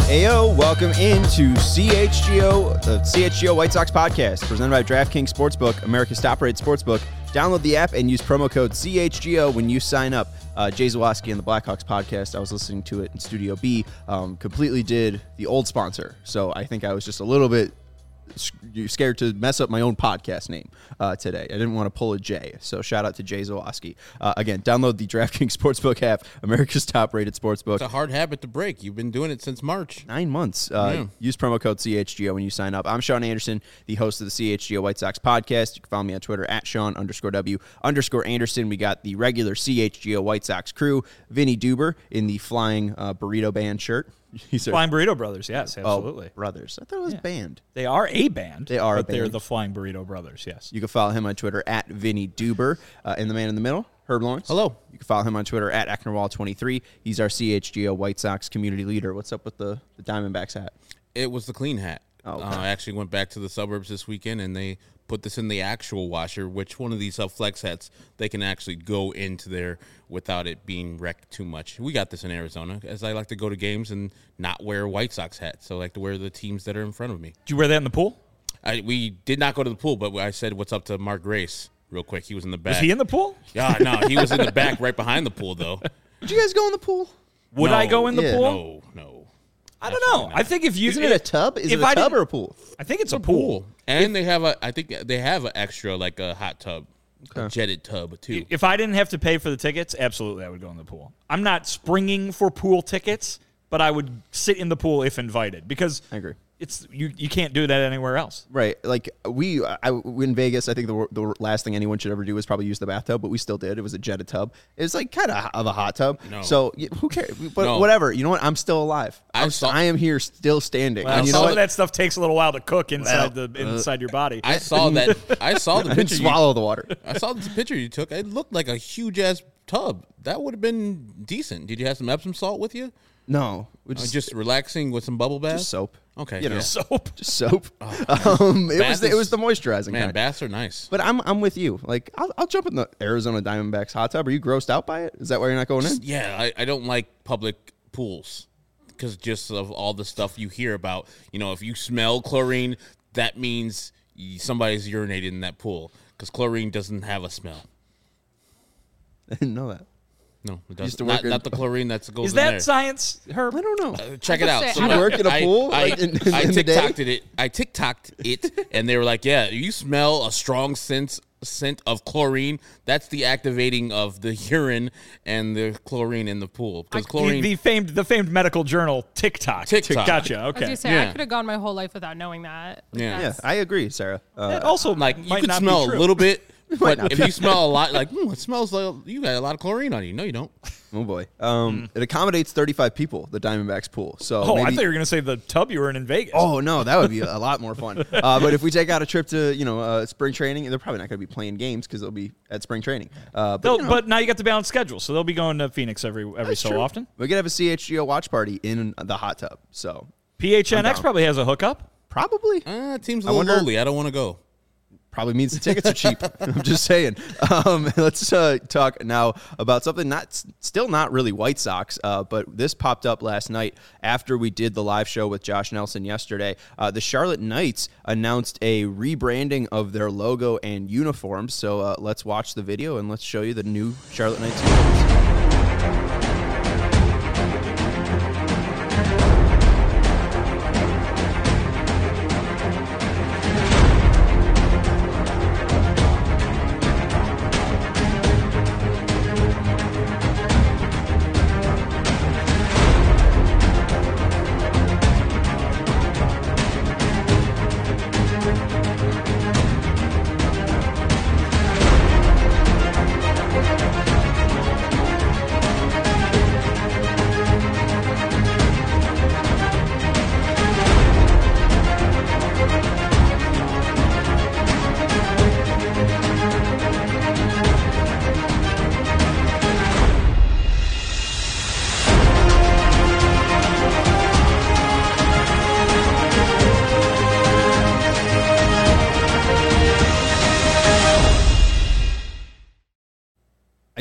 Heyo, welcome into CHGO, the CHGO White Sox podcast, presented by DraftKings Sportsbook, America's top-rated sportsbook. Download the app and use promo code CHGO when you sign up. Jay Zawaski and the Blackhawks podcast, I was listening to it in Studio B, completely did the old sponsor. So I think I was just a little bit scared to mess up my own podcast name today. I didn't want to pull a J. So shout out to Jay Zawaski. Again, download the DraftKings Sportsbook app, America's top-rated sportsbook. It's a hard habit to break. You've been doing it since March. 9 months. Use promo code CHGO when you sign up. I'm Sean Anderson, the host of the CHGO White Sox podcast. You can follow me on Twitter at Sean_W_Anderson. We got the regular CHGO White Sox crew, Vinny Duber in the Flying Burrito Band shirt. Flying Burrito Brothers, yes, absolutely. Oh, brothers. I thought it was band. They are a band. They are a but they're band. the Flying Burrito Brothers, yes. You can follow him on Twitter at Vinny Duber. And the man in the middle, Herb Lawrence. Hello. You can follow him on Twitter at Ecknerwall23. He's our CHGO White Sox community leader. What's up with the Diamondbacks hat? It was the clean hat. Oh, okay. I actually went back to the suburbs this weekend, and they put this in the actual washer, which one of these flex hats, they can actually go into there without it being wrecked too much. We got this in Arizona, as I like to go to games and not wear a White Sox hat, so I like to wear the teams that are in front of me. Did you wear that in the pool? We did not go to the pool, but I said what's up to Mark Grace real quick. He was in the back. Was he in the pool? Yeah, no, he was in the back right behind the pool, though. Did you guys go in the pool? Would I go in the Yeah. pool? No. I don't know. I think if you... Isn't it a tub? Is it a tub or a pool? I think it's a pool. And they have I think they have an extra, like a hot tub, a jetted tub, too. If I didn't have to pay for the tickets, absolutely I would go in the pool. I'm not springing for pool tickets, but I would sit in the pool if invited because I agree. It's you can't do that anywhere else. Right. Like, in Vegas, I think the last thing anyone should ever do is probably use the bathtub, but we still did. It was a jetted tub. It was like kind of a hot tub. No. So who cares? But whatever. You know what? I'm still alive. I am here still standing. Well, and you some know of that stuff takes a little while to cook inside inside your body. I saw the picture. Swallow the water. I saw the picture you took. It looked like a huge-ass tub. That would have been decent. Did you have some Epsom salt with you? No. Just relaxing with some bubble bath? Just soap. Okay. You know, soap. Just soap. It was the moisturizing Man, kind. baths are nice. But I'm with you. Like, I'll jump in the Arizona Diamondbacks hot tub. Are you grossed out by it? Is that why you're not going in? Yeah, I don't like public pools because just of all the stuff you hear about. You know, if you smell chlorine, that means somebody's urinated in that pool because chlorine doesn't have a smell. I didn't know that. No, it Used to doesn't. work Not the chlorine that goes Is in that there. science, Herb? I don't know. Check it out. say, So I You work in a pool I in the day? TikToked it. I TikToked it, and they were like, "Yeah, you smell a strong scent of chlorine. That's the activating of the urine and the chlorine in the pool because chlorine." The famed medical journal TikTok. TikTok. Gotcha. I was Okay. gonna say Yeah. I could have gone my whole life without knowing that. Like, Yeah. Yeah, I agree, Sarah. That also Like you might could not smell be a true. little bit, but not if you smell a lot, like it smells like you got a lot of chlorine on you. No, you don't. Oh boy. It accommodates 35 people, the Diamondbacks pool. So Oh, I maybe, thought you were going to say the tub you were in Vegas. Oh no, that would be a lot more fun. But if we take out a trip to spring training, they're probably not going to be playing games because they'll be at spring training. But now you got the balanced schedule, so they'll be going to Phoenix every that's so true. often. We could have a CHGO watch party in the hot tub. So I'm PHNX down. probably has a hookup. probably Team's a I little wonder- lowly. I don't want to go. probably means the tickets are cheap. I'm just saying. Let's talk now about something still not really White Sox, but this popped up last night after we did the live show with Josh Nelson yesterday. The Charlotte Knights announced a rebranding of their logo and uniforms. So let's watch the video and let's show you the new Charlotte Knights uniforms.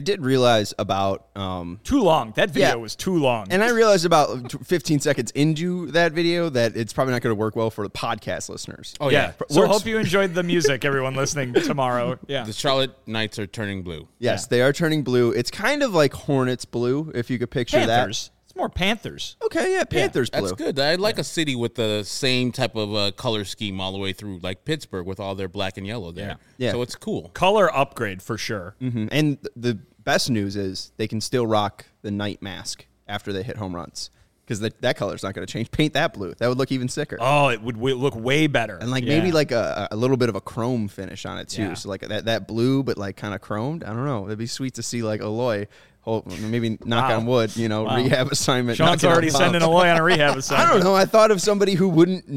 did realize about Too long. That video Yeah. was too long. and I realized about 15 seconds into that video that it's probably not going to work well for the podcast listeners. Oh, yeah. yeah. So Works- hope you enjoyed the music, everyone listening tomorrow. Yeah. The Charlotte Knights are turning blue. Yes, they are turning blue. It's kind of like Hornets blue, if you could picture Panthers. It's more Panthers. that. Okay, yeah, Panthers blue. That's good. I like a city with the same type of color scheme all the way through, like Pittsburgh with all their black and yellow there. Yeah. So it's cool. Color upgrade for sure. Mhm. And the best news is they can still rock the night mask after they hit home runs because that color's not going to change. Paint that blue. That would look even sicker. Oh, it would look way better. And Yeah. maybe like a little bit of a chrome finish on it too. Yeah. So like that blue, but like kind of chromed. I don't know. It'd be sweet to see like Aloy, maybe knock Wow. on wood, Wow. rehab assignment. Sean's knocking on already bounce. sending Aloy on a rehab assignment. I don't know. I thought of somebody who wouldn't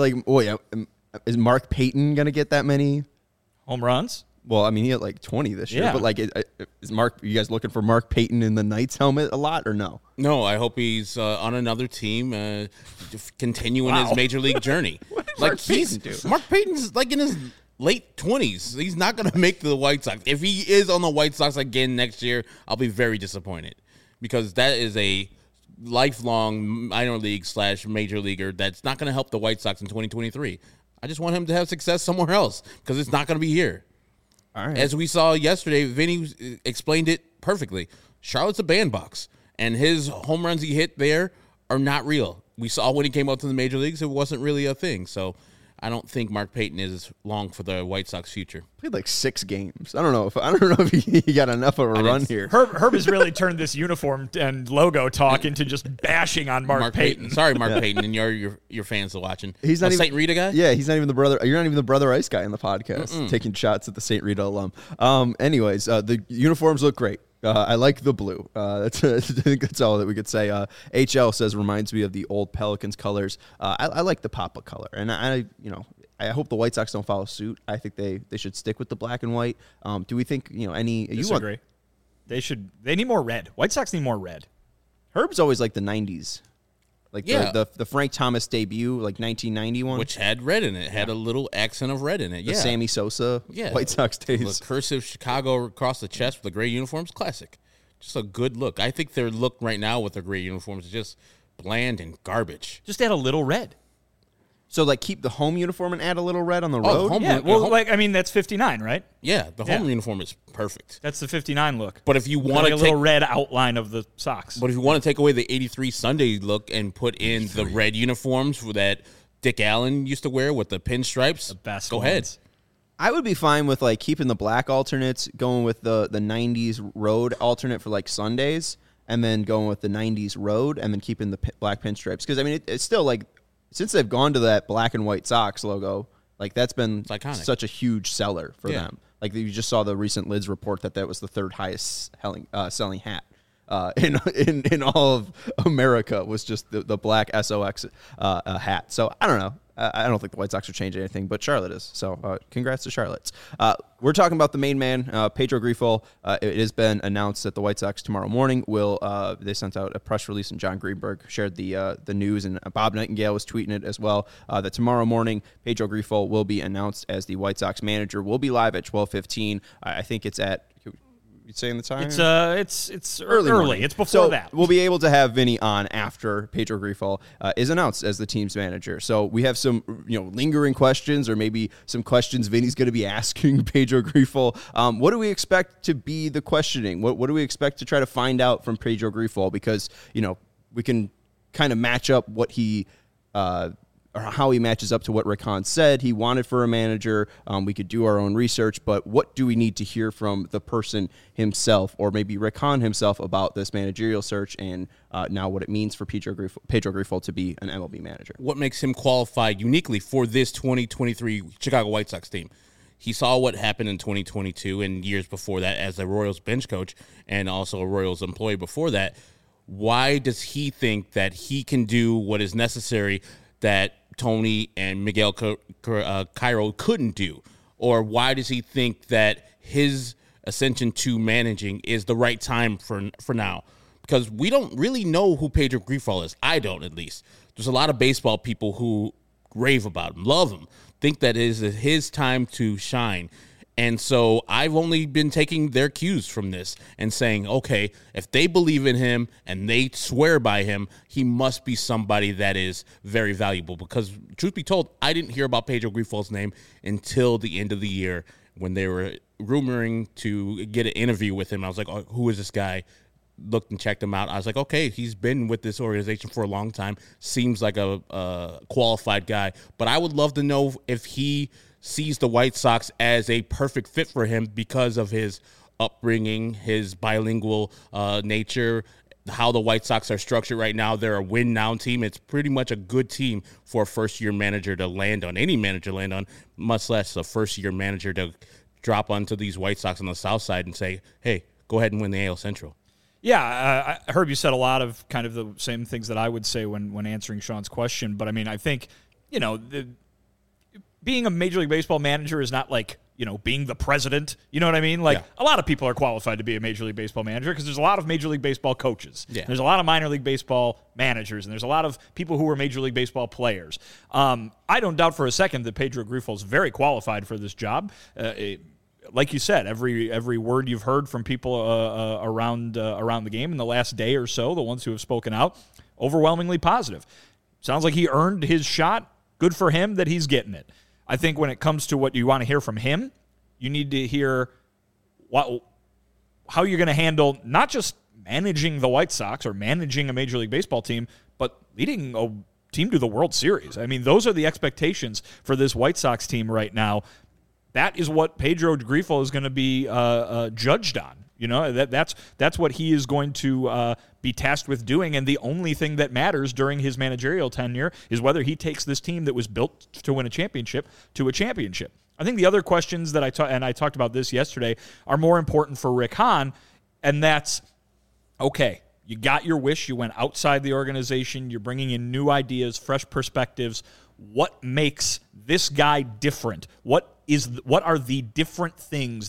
is Mark Payton going to get that many? Home runs? Well, I mean, he had like 20 this year, Yeah. but like, is you guys looking for Mark Payton in the Knights helmet a lot or no? No, I hope he's on another team, continuing Wow. his major league journey. Mark Payton do? Mark Payton's like in his late 20s. He's not going to make the White Sox. If he is on the White Sox again next year, I'll be very disappointed because that is a lifelong minor league / major leaguer that's not going to help the White Sox in 2023. I just want him to have success somewhere else because it's not going to be here. All right. As we saw yesterday, Vinny explained it perfectly. Charlotte's a bandbox, and his home runs he hit there are not real. We saw when he came up to the major leagues, it wasn't really a thing. So I don't think Mark Payton is long for the White Sox future. Played like 6 games. I don't know if he got enough of a run here. Herb has really turned this uniform and logo talk into just bashing on Mark Payton. Sorry, Mark Payton, and your fans are watching. He's not even St. Rita guy. Yeah, he's not even the brother. You're not even the Brother Ice guy in the podcast taking shots at the St. Rita alum. Anyways, the uniforms look great. I like the blue. I think that's all that we could say. HL says reminds me of the old Pelicans colors. I like the Papa color, and I hope the White Sox don't follow suit. I think they should stick with the black and white. Do we think any? Disagree. They need more red. White Sox need more red. Herb's always like the '90s, like Yeah. the Frank Thomas debut, like 1991, Which had red in it, had a little accent of red in it. the Yeah, Sammy Sosa White Sox The days. cursive Chicago across the chest with the gray uniforms, classic. Just a good look. I think their look right now with their gray uniforms is just bland and garbage. Just add a little red. So like keep the home uniform and add a little red on the road. home- Yeah, well, home- that's 59, right? Yeah, the home Yeah. uniform is perfect. That's the 59 look. But if you With want like to a take, little red outline of the socks. but if you want to take away the '83 Sunday look and put in the red uniforms that Dick Allen used to wear with the pinstripes, Best go ones. ahead. I would be fine with like keeping the black alternates, going with the 90s road alternate for like Sundays, and then going with the 90s road, and then keeping the black pinstripes. Because I mean, it's still like since they've gone to that black and white Sox logo, like that's been iconic. such a huge seller for Yeah. them. Like you just saw the recent Lids report that was the 3rd highest selling hat. In all of America was just the black SOX hat. So I don't know. I don't think the White Sox are changing anything, but Charlotte is. So congrats to Charlotte. We're talking about the main man, Pedro Grifol. It has been announced that the White Sox tomorrow morning will. They sent out a press release, and John Greenberg shared the news, and Bob Nightingale was tweeting it as well. That tomorrow morning, Pedro Grifol will be announced as the White Sox manager. We'll be live at 12:15. I think it's at. You saying the time? It's early. morning. It's before So that. we'll be able to have Vinny on after Pedro Grifol is announced as the team's manager. So we have some lingering questions, or maybe some questions Vinny's going to be asking Pedro Grifol. What do we expect to be the questioning? What do we expect to try to find out from Pedro Grifol? Because we can kind of match up what he. Or how he matches up to what Rick Hahn said he wanted for a manager. We could do our own research, but what do we need to hear from the person himself, or maybe Rick Hahn himself, about this managerial search and now what it means for Pedro Grifol to be an MLB manager? What makes him qualified uniquely for this 2023 Chicago White Sox team? He saw what happened in 2022 and years before that as a Royals bench coach and also a Royals employee before that. Why does he think that he can do what is necessary that Tony and Miguel Cairo couldn't do? Or why does he think that his ascension to managing is the right time for now? Because we don't really know who Pedro Grifol is. I don't, at least. There's a lot of baseball people who rave about him, love him, think that it is his time to shine. And so I've only been taking their cues from this and saying, okay, if they believe in him and they swear by him, he must be somebody that is very valuable. Because truth be told, I didn't hear about Pedro Grifol's name until the end of the year when they were rumoring to get an interview with him. I was like, oh, who is this guy? Looked and checked him out. I was like, okay, he's been with this organization for a long time. Seems like a qualified guy. But I would love to know if he sees the White Sox as a perfect fit for him because of his upbringing, his bilingual nature, how the White Sox are structured right now. They're a win-now team. It's pretty much a good team for a first-year manager to land on, any manager to land on, much less a first-year manager to drop onto these White Sox on the south side and say, hey, go ahead and win the AL Central. Yeah, I heard you said a lot of kind of the same things that I would say when answering Sean's question. But, I mean, I think, being a Major League Baseball manager is not like, being the president. You know what I mean? Like, A lot of people are qualified to be a Major League Baseball manager because there's a lot of Major League Baseball coaches. Yeah. There's a lot of minor league baseball managers, and there's a lot of people who are Major League Baseball players. I don't doubt for a second that Pedro Grifol is very qualified for this job. Like you said, every word you've heard from people around the game in the last day or so, the ones who have spoken out, overwhelmingly positive. Sounds like he earned his shot. Good for him that he's getting it. I think when it comes to what you want to hear from him, you need to hear how you're going to handle not just managing the White Sox or managing a Major League Baseball team, but leading a team to the World Series. I mean, those are the expectations for this White Sox team right now. That is what Pedro Grifol is going to be judged on. That's what he is going to be tasked with doing, and the only thing that matters during his managerial tenure is whether he takes this team that was built to win a championship to a championship. I think the other questions that I talked about this yesterday are more important for Rick Hahn, and that's, okay, you got your wish, you went outside the organization, you're bringing in new ideas, fresh perspectives. What makes this guy different? What are the different things,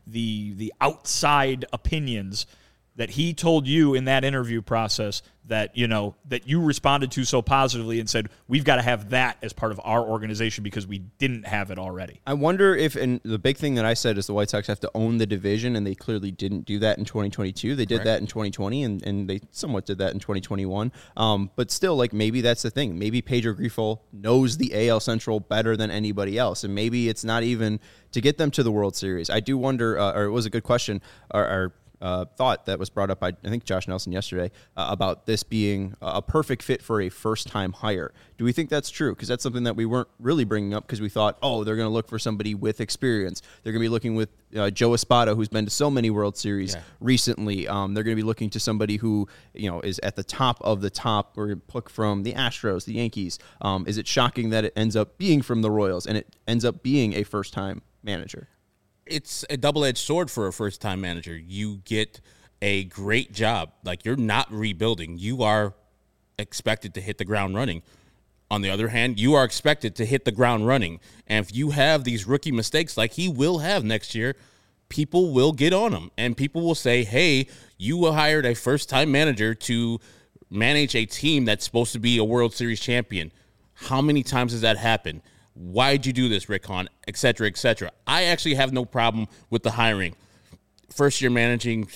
the outside opinions that he told you in that interview process that you responded to so positively and said, we've got to have that as part of our organization because we didn't have it already? I wonder if, and the big thing that I said is the White Sox have to own the division, and they clearly didn't do that in 2022. They did that in 2020, and they somewhat did that in 2021. But still, maybe that's the thing. Maybe Pedro Grifol knows the AL Central better than anybody else, and maybe it's not even to get them to the World Series. I do wonder, or it was a good question, or thought that was brought up by, I think, Josh Nelson yesterday about this being a perfect fit for a first-time hire. Do we think that's true? Because that's something that we weren't really bringing up because we thought, they're going to look for somebody with experience. They're going to be looking with Joe Espada, who's been to so many World Series recently. They're going to be looking to somebody who, is at the top of the top, or pick from the Astros, the Yankees. Is it shocking that it ends up being from the Royals and it ends up being a first-time manager? It's a double-edged sword for a first-time manager. You get a great job. You're not rebuilding. You are expected to hit the ground running. On the other hand, you are expected to hit the ground running. And if you have these rookie mistakes like he will have next year, people will get on him. And people will say, hey, you hired a first-time manager to manage a team that's supposed to be a World Series champion. How many times has that happened? Why'd you do this, Rick Hahn, et cetera, et cetera. I actually have no problem with the hiring. First year managing,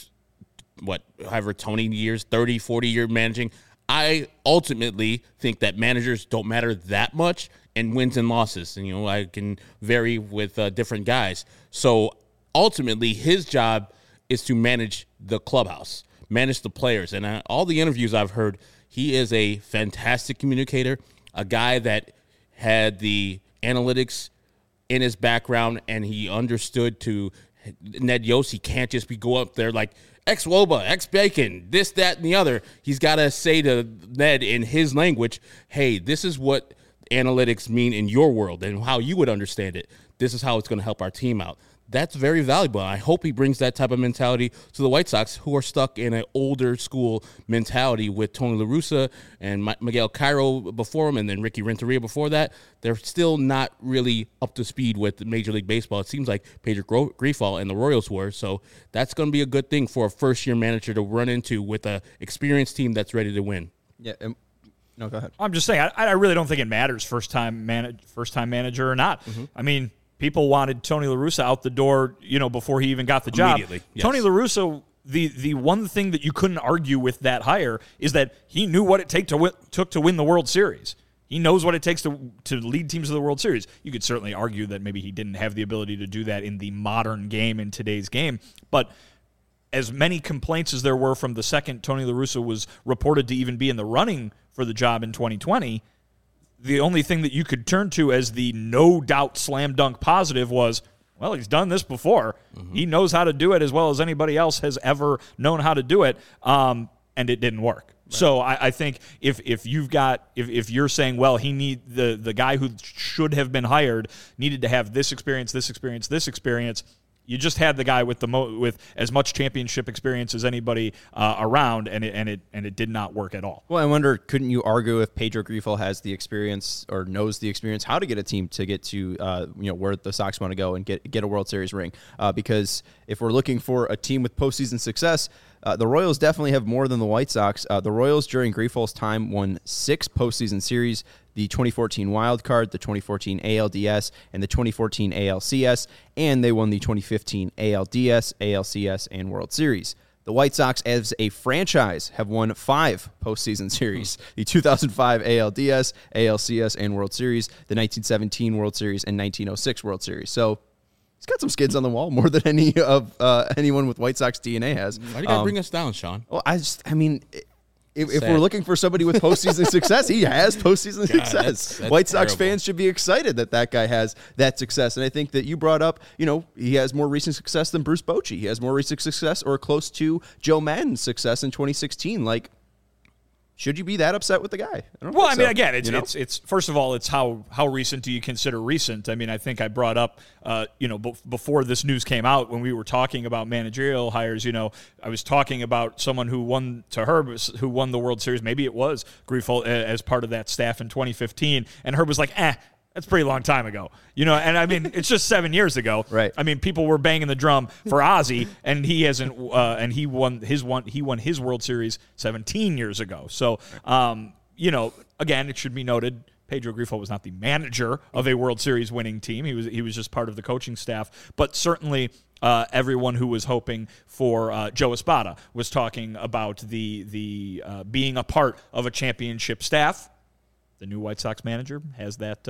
however, 20 years, 30, 40-year managing. I ultimately think that managers don't matter that much in wins and losses. And, I can vary with different guys. So ultimately, his job is to manage the clubhouse, manage the players. And all the interviews I've heard, he is a fantastic communicator, a guy that had the analytics in his background, and he understood to Ned Yost, he can't just go up there like ex-Woba, ex-Bacon, this, that, and the other. He's got to say to Ned in his language, hey, this is what analytics mean in your world and how you would understand it. This is how it's going to help our team out. That's very valuable. I hope he brings that type of mentality to the White Sox, who are stuck in an older school mentality with Tony La Russa and Miguel Cairo before him, and then Ricky Renteria before that. They're still not really up to speed with Major League Baseball. It seems like Pedro Grifol and the Royals were, so that's going to be a good thing for a first-year manager to run into with an experienced team that's ready to win. Yeah. Go ahead. I'm just saying, I really don't think it matters first-time manager or not. Mm-hmm. I mean, people wanted Tony La Russa out the door, before he even got the job. Immediately, yes. Tony La Russa, the one thing that you couldn't argue with that hire is that he knew what it took to win the World Series. He knows what it takes to lead teams to the World Series. You could certainly argue that maybe he didn't have the ability to do that in the modern game, in today's game. But as many complaints as there were from the second Tony La Russa was reported to even be in the running for the job in 2020, the only thing that you could turn to as the no doubt slam dunk positive was, well, he's done this before. Mm-hmm. He knows how to do it as well as anybody else has ever known how to do it, and it didn't work. Right. So I think if you're saying, well, the guy who should have been hired needed to have this experience, you just had the guy with with as much championship experience as anybody around, and it did not work at all. Well, I wonder, couldn't you argue if Pedro Grifol has the experience or knows the experience how to get a team to get to where the Sox want to go and get a World Series ring? Because if we're looking for a team with postseason success, the Royals definitely have more than the White Sox. The Royals during Grifol's time won 6 postseason series: the 2014 Wild Card, the 2014 ALDS, and the 2014 ALCS, and they won the 2015 ALDS, ALCS, and World Series. The White Sox, as a franchise, have won 5 postseason series: the 2005 ALDS, ALCS, and World Series, the 1917 World Series, and 1906 World Series. So he's got some skids on the wall, more than any of anyone with White Sox DNA has. Why do you got to bring us down, Sean? Well, if we're looking for somebody with postseason success, he has postseason success. That's White Sox terrible. fans should be excited that guy has that success. And I think that you brought up, he has more recent success than Bruce Bochy. He has more recent success or close to Joe Maddon's success in 2016. Like, should you be that upset with the guy? Again, it's first of all, it's how recent do you consider recent? I mean, I think I brought up, before this news came out, when we were talking about managerial hires, I was talking about someone who won the World Series. Maybe it was Grifol as part of that staff in 2015, and Herb was like, that's a pretty long time ago, and I mean, it's just 7 years ago, right? I mean, people were banging the drum for Ozzie, and he hasn't, and he won his World Series 17 years ago. So, again, it should be noted, Pedro Grifol was not the manager of a World Series winning team. He was just part of the coaching staff, but certainly everyone who was hoping for Joe Espada was talking about the being a part of a championship staff. The new White Sox manager has that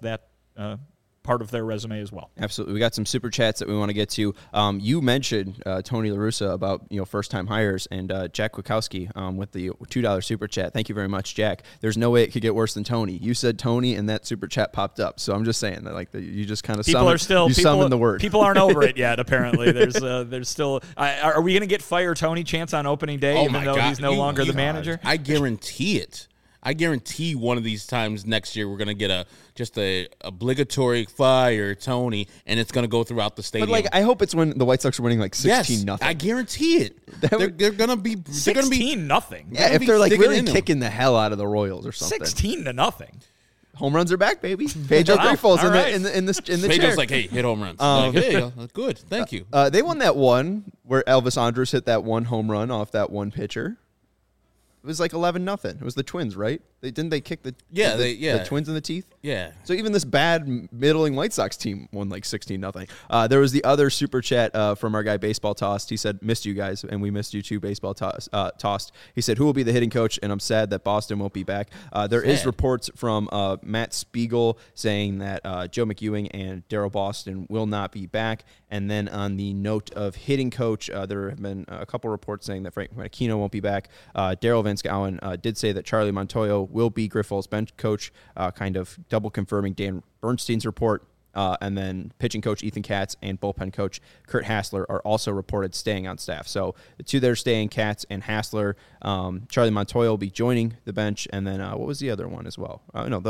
part of their resume as well. Absolutely. We got some super chats that we want to get to. You mentioned Tony La Russa about first-time hires, and Jack Kwiatkowski with the $2 super chat. Thank you very much, Jack. There's no way it could get worse than Tony. You said Tony, and that super chat popped up. So I'm just saying that you just kind of summoned the word. People aren't over it yet. Apparently, there's still. Are we going to get fire Tony chance on opening day, even though he's no longer the manager? I guarantee it. I guarantee one of these times next year we're going to get a obligatory fire Tony, and it's going to go throughout the stadium. But I hope it's when the White Sox are winning 16-0. I guarantee it. They're going to be 16-0. Yeah, if they're really kicking the hell out of the Royals or something. 16-0. Home runs are back, baby. Pedro Grifol's in the Pedro's chair. like, hey, hit home runs. Hey, good, thank you. They won that one where Elvis Andrus hit that one home run off that one pitcher. It was 11-0. It was the Twins, right? Didn't they kick the Twins in the teeth? Yeah. So even this bad middling White Sox team won 16-0. There was the other super chat from our guy Baseball Tossed. He said, "Missed you guys, and we missed you too." Baseball Tossed. He said, "Who will be the hitting coach?" And I'm sad that Boston won't be back. There is reports from Matt Spiegel saying that Joe McEwing and Darryl Boston will not be back. And then on the note of hitting coach, there have been a couple reports saying that Frank Marquino won't be back. Daryl Van Schouwen did say that Charlie Montoyo will be Grifol's bench coach, kind of double confirming Dan Bernstein's report. And then pitching coach Ethan Katz and bullpen coach Kurt Hassler are also reported staying on staff. So the two that are staying, Katz and Hassler. Charlie Montoyo will be joining the bench. And then what was the other one as well?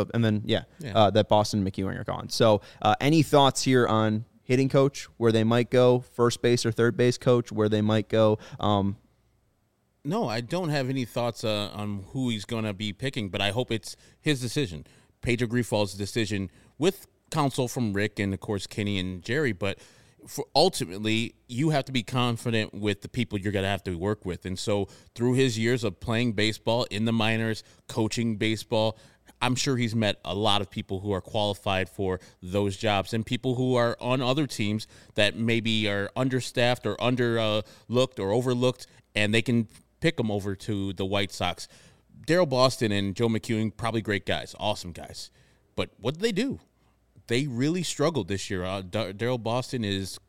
That Boston and McEwing are gone. So any thoughts here on hitting coach, where they might go, first base or third base coach, where they might go? No, I don't have any thoughts on who he's going to be picking, but I hope it's his decision. Pedro Grifol's decision with counsel from Rick and, of course, Kenny and Jerry, but ultimately, you have to be confident with the people you're going to have to work with. And so through his years of playing baseball in the minors, coaching baseball, I'm sure he's met a lot of people who are qualified for those jobs and people who are on other teams that maybe are understaffed or underlooked or overlooked, and they can pick them over to the White Sox. Daryl Boston and Joe McEwing, probably great guys, awesome guys. But what did they do? They really struggled this year. Daryl Boston is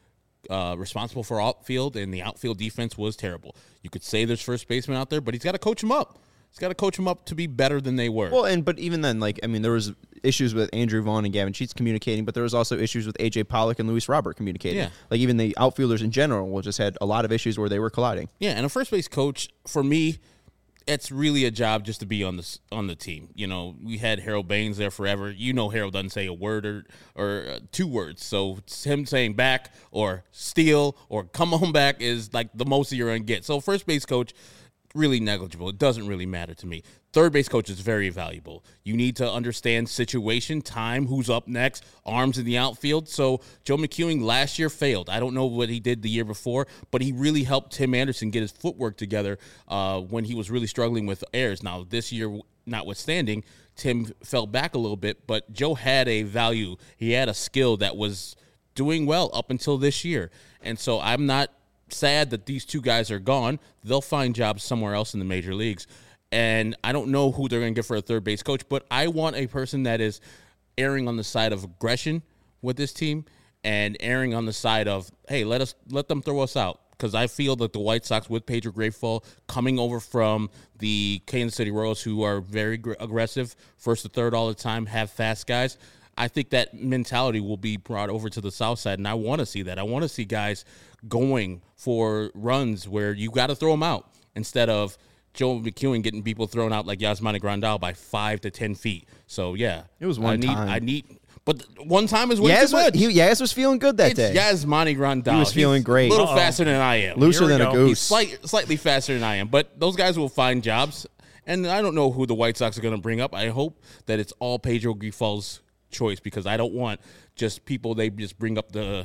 responsible for outfield, and the outfield defense was terrible. You could say there's first baseman out there, but he's got to coach them up. He's got to coach them up to be better than they were. Well, but even then, there was issues with Andrew Vaughn and Gavin Sheets communicating, but there was also issues with A.J. Pollock and Luis Robert communicating. Yeah. Like, even the outfielders in general just had a lot of issues where they were colliding. Yeah, and a first base coach, for me, it's really a job just to be on the team. You know, we had Harold Baines there forever. You know, Harold doesn't say a word or 2 words. So him saying back or steal or come on back is like the most you're going to get. So first base coach, really negligible. It doesn't really matter to me. Third base coach is very valuable. You need to understand situation, time, who's up next, arms in the outfield. So Joe McEwing last year failed. I don't know what he did the year before, but he really helped Tim Anderson get his footwork together when he was really struggling with errors. Now, this year, notwithstanding, Tim fell back a little bit, but Joe had a value. He had a skill that was doing well up until this year. And so I'm not sad that these 2 guys are gone. They'll find jobs somewhere else in the major leagues. And I don't know who they're going to get for a third base coach, but I want a person that is erring on the side of aggression with this team and erring on the side of, hey, let them throw us out. Because I feel that the White Sox with Pedro Grifol coming over from the Kansas City Royals, who are very aggressive, first to third all the time, have fast guys, I think that mentality will be brought over to the South Side, and I want to see that. I want to see guys going for runs where you got to throw them out instead of Joe McEwing getting people thrown out like Yasmani Grandal by 5 to 10 feet. So, yeah. It was one time. But one time is way too much. Yaz was feeling good that day. Yasmani Grandal. He was feeling great. A little faster than I am. Looser than a goose. He's slightly faster than I am. But those guys will find jobs. And I don't know who the White Sox are going to bring up. I hope that it's all Pedro Grifol's choice, because I don't want just people they just bring up the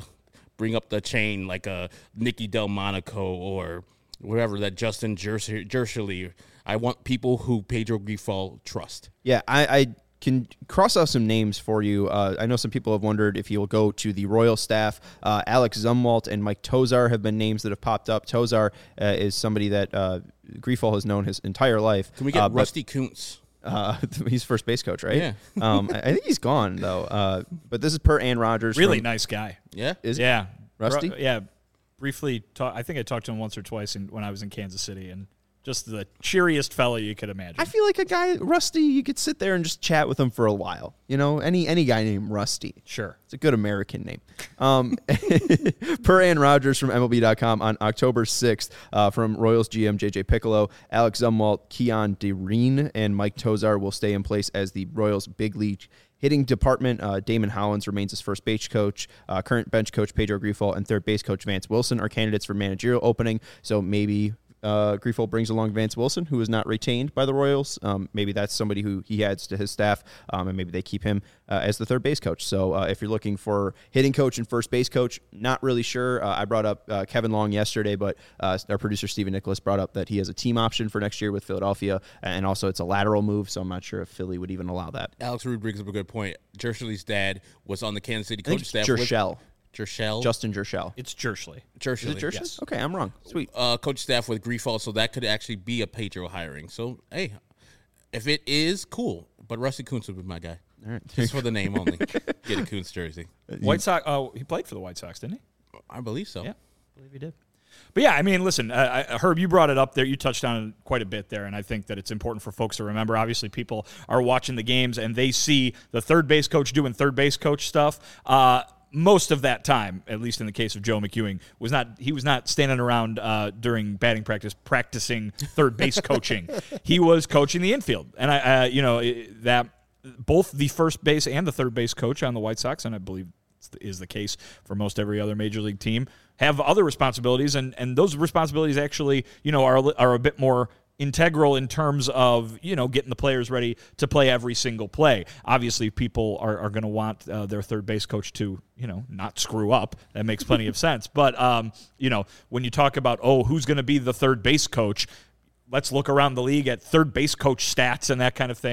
chain like a Nicky Delmonico or whatever, that Justin Jershely. I want people who Pedro Grifol trust. Yeah, I can cross off some names for you. I know some people have wondered if he'll go to the Royal staff. Alex Zumwalt and Mike Tosar have been names that have popped up. Tosar is somebody that Grifol has known his entire life. Can we get Rusty Kuntz? He's first base coach, right? Yeah. I think he's gone, though. But this is per Ann Rogers. Really nice guy. Yeah? Yeah. Rusty? Yeah. Briefly, I think I talked to him once or twice when I was in Kansas City, and just the cheeriest fella you could imagine. I feel like a guy, Rusty, you could sit there and just chat with him for a while. You know, any guy named Rusty. Sure. It's a good American name. Per Ann Rogers from MLB.com on October 6th, from Royals GM J.J. Piccolo, Alex Zumwalt, Keon Dereen, and Mike Tosar will stay in place as the Royals big league hitting department. Damon Hollins remains as first base coach. Current bench coach Pedro Grifol and third base coach Vance Wilson are candidates for managerial opening, so maybe Grifol brings along Vance Wilson, who is not retained by the Royals. Maybe that's somebody who he adds to his staff, and maybe they keep him as the third base coach. So if you're looking for hitting coach and first base coach, not really sure. I brought up Kevin Long yesterday, but our producer Stephen Nicholas brought up that he has a team option for next year with Philadelphia, and also it's a lateral move, so I'm not sure if Philly would even allow that. Alex Rude brings up a good point. Jershely's dad was on the Kansas City coach staff. Jershel. Justin Jershel. It's Jershely. Is it Jershely? Yes. Okay, I'm wrong. Sweet. Coach staff with Grifol, so that could actually be a Pedro hiring. So, hey, if it is, cool. But Rusty Kuntz would be my guy. All right. Just for the name only. Get a Kuntz jersey. White Sox. Oh, he played for the White Sox, didn't he? I believe so. Yeah, I believe he did. But yeah, I mean, listen, Herb, you brought it up there. You touched on it quite a bit there, and I think that it's important for folks to remember. Obviously, people are watching the games, and they see the third base coach doing third base coach stuff. Most of that time, at least in the case of Joe McEwing, he was not standing around during batting practice practicing third base coaching. He was coaching the infield, and that both the first base and the third base coach on the White Sox, and I believe is the case for most every other major league team, have other responsibilities, and those responsibilities actually are a bit more integral in terms of getting the players ready to play every single play. Obviously, people are going to want their third base coach to not screw up. That makes plenty of sense. But when you talk about who's going to be the third base coach, let's look around the league at third base coach stats and that kind of thing.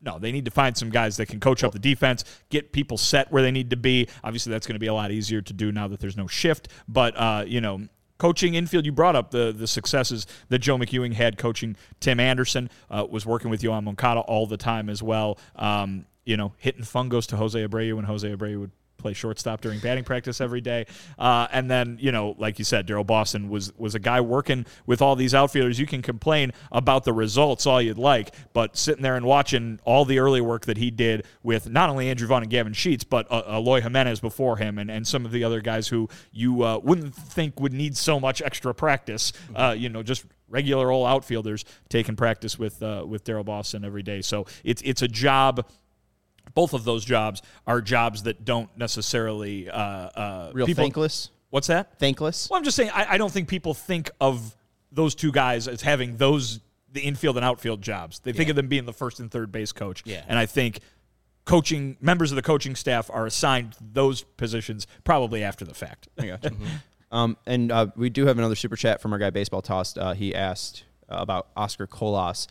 No, they need to find some guys that can coach up the defense, get people set where they need to be. Obviously, that's going to be a lot easier to do now that there's no shift. But, coaching infield, you brought up the successes that Joe McEwing had coaching Tim Anderson, was working with Yohan Moncada all the time as well. Hitting fungos to Jose Abreu when Jose Abreu would play shortstop during batting practice every day. And then, like you said, Daryl Boston was a guy working with all these outfielders. You can complain about the results all you'd like, but sitting there and watching all the early work that he did with not only Andrew Vaughn and Gavin Sheets, but Eloy Jimenez before him and some of the other guys who you wouldn't think would need so much extra practice, just regular old outfielders taking practice with Daryl Boston every day. So it's a job. Both of those jobs are jobs that don't necessarily Thankless. What's that? Thankless. Well, I'm just saying I don't think people think of those two guys as having the infield and outfield jobs. They think of them being the first and third base coach. Yeah. And I think members of the coaching staff are assigned those positions probably after the fact. I gotcha. And we do have another super chat from our guy Baseball Tossed. He asked about Oscar Colas.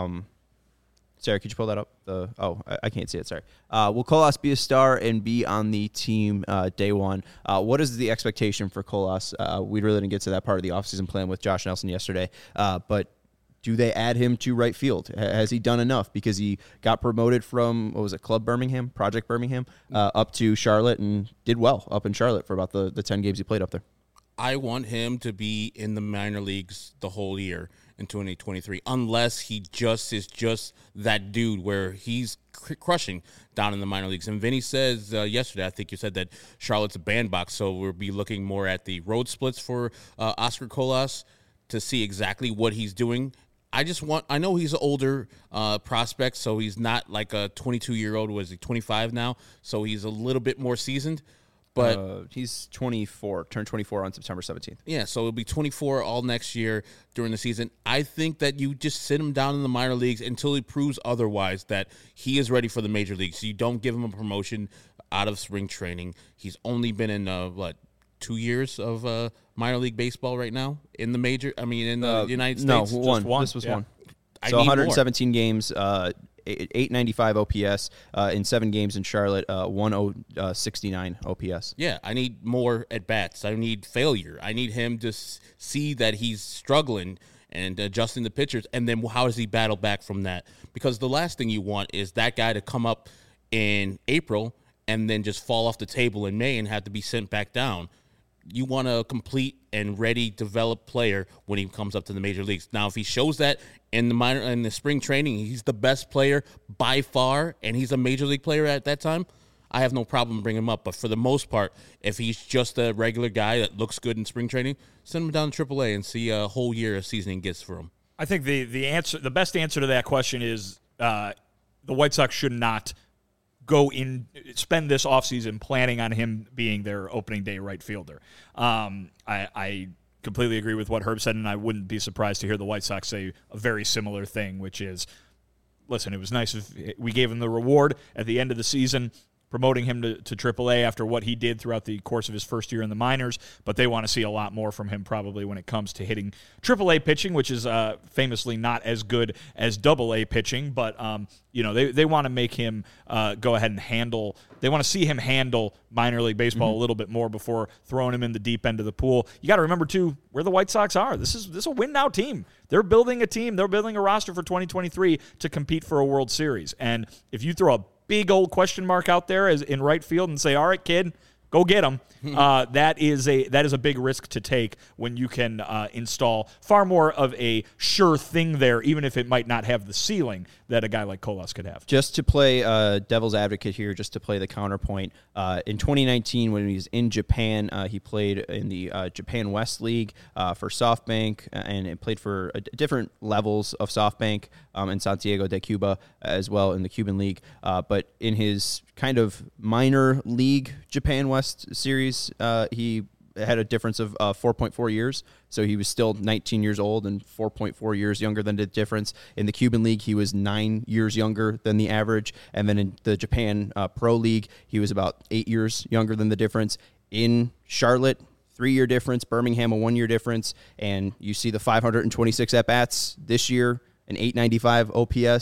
Sarah, could you pull that up? I can't see it. Sorry. Will Colas be a star and be on the team day one? What is the expectation for Colas? We really didn't get to that part of the offseason plan with Josh Nelson yesterday. But do they add him to right field? Has he done enough? Because he got promoted from, Project Birmingham, up to Charlotte and did well up in Charlotte for about the 10 games he played up there. I want him to be in the minor leagues the whole year in 2023, unless he is just that dude where he's crushing down in the minor leagues. And Vinny says yesterday, I think you said that Charlotte's a bandbox, so we'll be looking more at the road splits for Oscar Colas to see exactly what he's doing. I know he's an older prospect, so he's not like a 22-year-old. Was he 25 now? So he's a little bit more seasoned. But he's 24, turned 24 on September 17th. Yeah, so he'll be 24 all next year during the season. I think that you just sit him down in the minor leagues until he proves otherwise that he is ready for the major leagues. You don't give him a promotion out of spring training. He's only been in 2 years of minor league baseball right now in the United States. No, one. This was one. So 117 games. 895 OPS in 7 games in Charlotte, 1069 OPS. Yeah, I need more at bats. I need failure. I need him to see that he's struggling and adjusting the pitchers, and then how does he battle back from that? Because the last thing you want is that guy to come up in April and then just fall off the table in May and have to be sent back down. You want a complete and ready, developed player when he comes up to the major leagues. Now, if he shows that in the spring training, he's the best player by far, and he's a major league player at that time, I have no problem bringing him up. But for the most part, if he's just a regular guy that looks good in spring training, send him down to AAA and see a whole year of seasoning gets for him. I think the best answer to that question is the White Sox should not spend this offseason planning on him being their opening day right fielder. I completely agree with what Herb said, and I wouldn't be surprised to hear the White Sox say a very similar thing, which is, listen, it was nice if we gave him the reward at the end of the season, promoting him to AAA after what he did throughout the course of his first year in the minors, but they want to see a lot more from him probably when it comes to hitting AAA pitching, which is famously not as good as AA pitching, but they want to make him go ahead and handle. They want to see him handle minor league baseball a little bit more before throwing him in the deep end of the pool. You got to remember too where the White Sox are. This is a win now team. They're building a team. They're building a roster for 2023 to compete for a World Series. And if you throw a big old question mark out there as in right field and say, all right, kid, go get him. That is a big risk to take when you can install far more of a sure thing there, even if it might not have the ceiling that a guy like Colas could have. Just to play devil's advocate here, just to play the counterpoint, in 2019 when he was in Japan, he played in the Japan West League for SoftBank, and it played for different levels of SoftBank in Santiago de Cuba as well in the Cuban League. But in his kind of minor league Japan West series, he had a difference of 4.4 years. So he was still 19 years old and 4.4 years younger than the difference. In the Cuban League, he was 9 years younger than the average. And then in the Japan Pro League, he was about 8 years younger than the difference. In Charlotte, 3-year difference. Birmingham, a 1-year difference. And you see the 526 at-bats this year, an 895 OPS.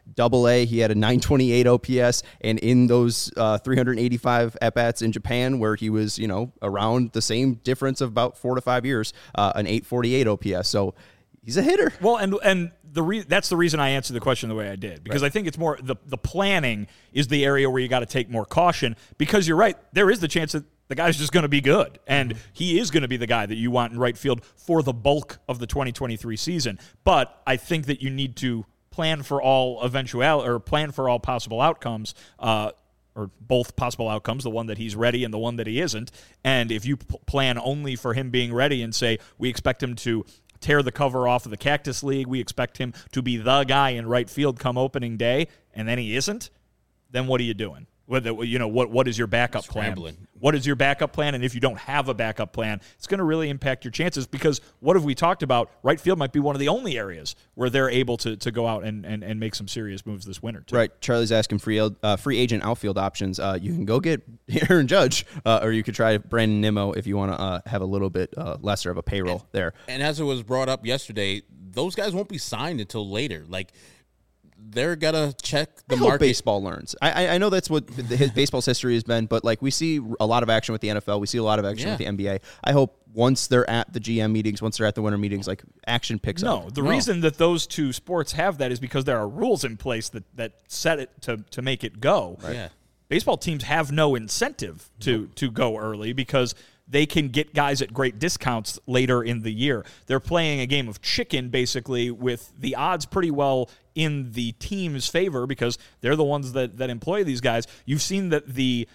Double-A, he had a 928 OPS, and in those 385 at-bats in Japan, where he was, around the same difference of about 4 to 5 years, an 848 OPS. So he's a hitter. Well, and that's the reason I answered the question the way I did, because I think it's more the planning is the area where you got to take more caution, because you're right, there is the chance that the guy's just going to be good, and he is going to be the guy that you want in right field for the bulk of the 2023 season. But I think that you need to plan for all plan for all possible outcomes, or both possible outcomes, the one that he's ready and the one that he isn't. And if you plan only for him being ready and say, we expect him to tear the cover off of the Cactus League, we expect him to be the guy in right field come opening day, and then he isn't, then what are you doing? What is your backup plan? What is your backup plan? And if you don't have a backup plan, it's going to really impact your chances, because what have we talked about? Right field might be one of the only areas where they're able to go out and make some serious moves this winter, too. Right. Charlie's asking free agent outfield options. You can go get Aaron Judge, or you could try Brandon Nimmo if you want to have a little bit lesser of a payroll there. And as it was brought up yesterday, those guys won't be signed until later. Like, they're gonna check the market. Hope baseball learns. I know that's what his baseball's history has been, but like we see a lot of action with the NFL, we see a lot of action with the NBA. I hope once they're at the GM meetings, once they're at the winter meetings, like action picks up. The reason that those two sports have that is because there are rules in place that set it to make it go. Right. Yeah. Baseball teams have no incentive to go early, because they can get guys at great discounts later in the year. They're playing a game of chicken, basically, with the odds pretty well in the team's favor, because they're the ones that employ these guys. You've seen that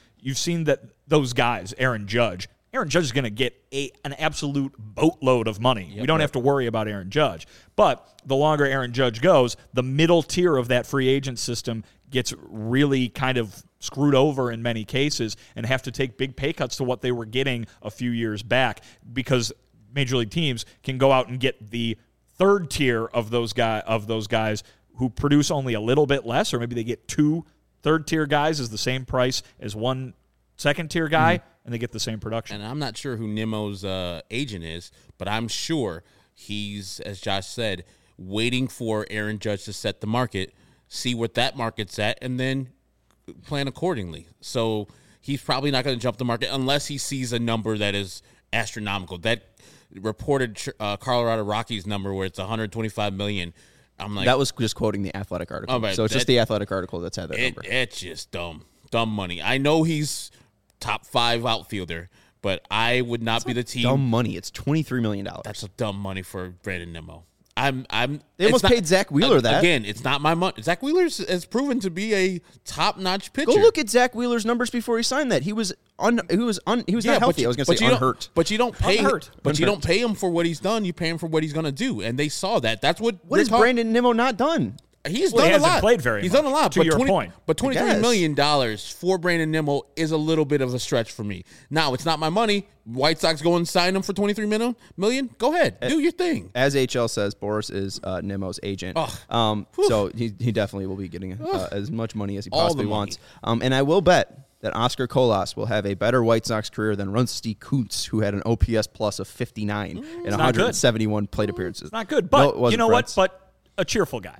those guys, Aaron Judge is going to get an absolute boatload of money. We don't have to worry about Aaron Judge. But the longer Aaron Judge goes, the middle tier of that free agent system gets really kind of screwed over in many cases and have to take big pay cuts to what they were getting a few years back, because major league teams can go out and get the third tier of those guys who produce only a little bit less, or maybe they get 2 third-tier guys as the same price as 1 second-tier guy, and they get the same production. And I'm not sure who Nimmo's agent is, but I'm sure he's, as Josh said, waiting for Aaron Judge to set the market, see what that market's at, and then plan accordingly. So he's probably not going to jump the market unless he sees a number that is astronomical. That reported Colorado Rockies number where it's $125 million. I'm like, that was just quoting the Athletic article. So it's just the Athletic article that's had that number. It's just dumb money. I know he's top 5 outfielder, but I would not be the team. Dumb money. It's $23 million. That's a dumb money for Brandon Nimmo. They almost paid Zach Wheeler that. Again, it's not my money. Zach Wheeler has proven to be a top-notch pitcher. Go look at Zach Wheeler's numbers before he signed that. He was not healthy. I was going to say unhurt. But you don't pay. You don't pay him for what he's done. You pay him for what he's going to do, and they saw that. That's what. What has Brandon Nimmo not done? He's done a lot. He hasn't played very much. He's done a lot. To your point. But $23 million for Brandon Nimmo is a little bit of a stretch for me. Now, it's not my money. White Sox go and sign him for $23 million. Go ahead. Do your thing. As HL says, Boris is Nimmo's agent. So he definitely will be getting as much money as he possibly wants. And I will bet that Oscar Colas will have a better White Sox career than Rusty Kuntz, who had an OPS plus of 59 in 171 plate appearances. It's not good, but you know what? But a cheerful guy.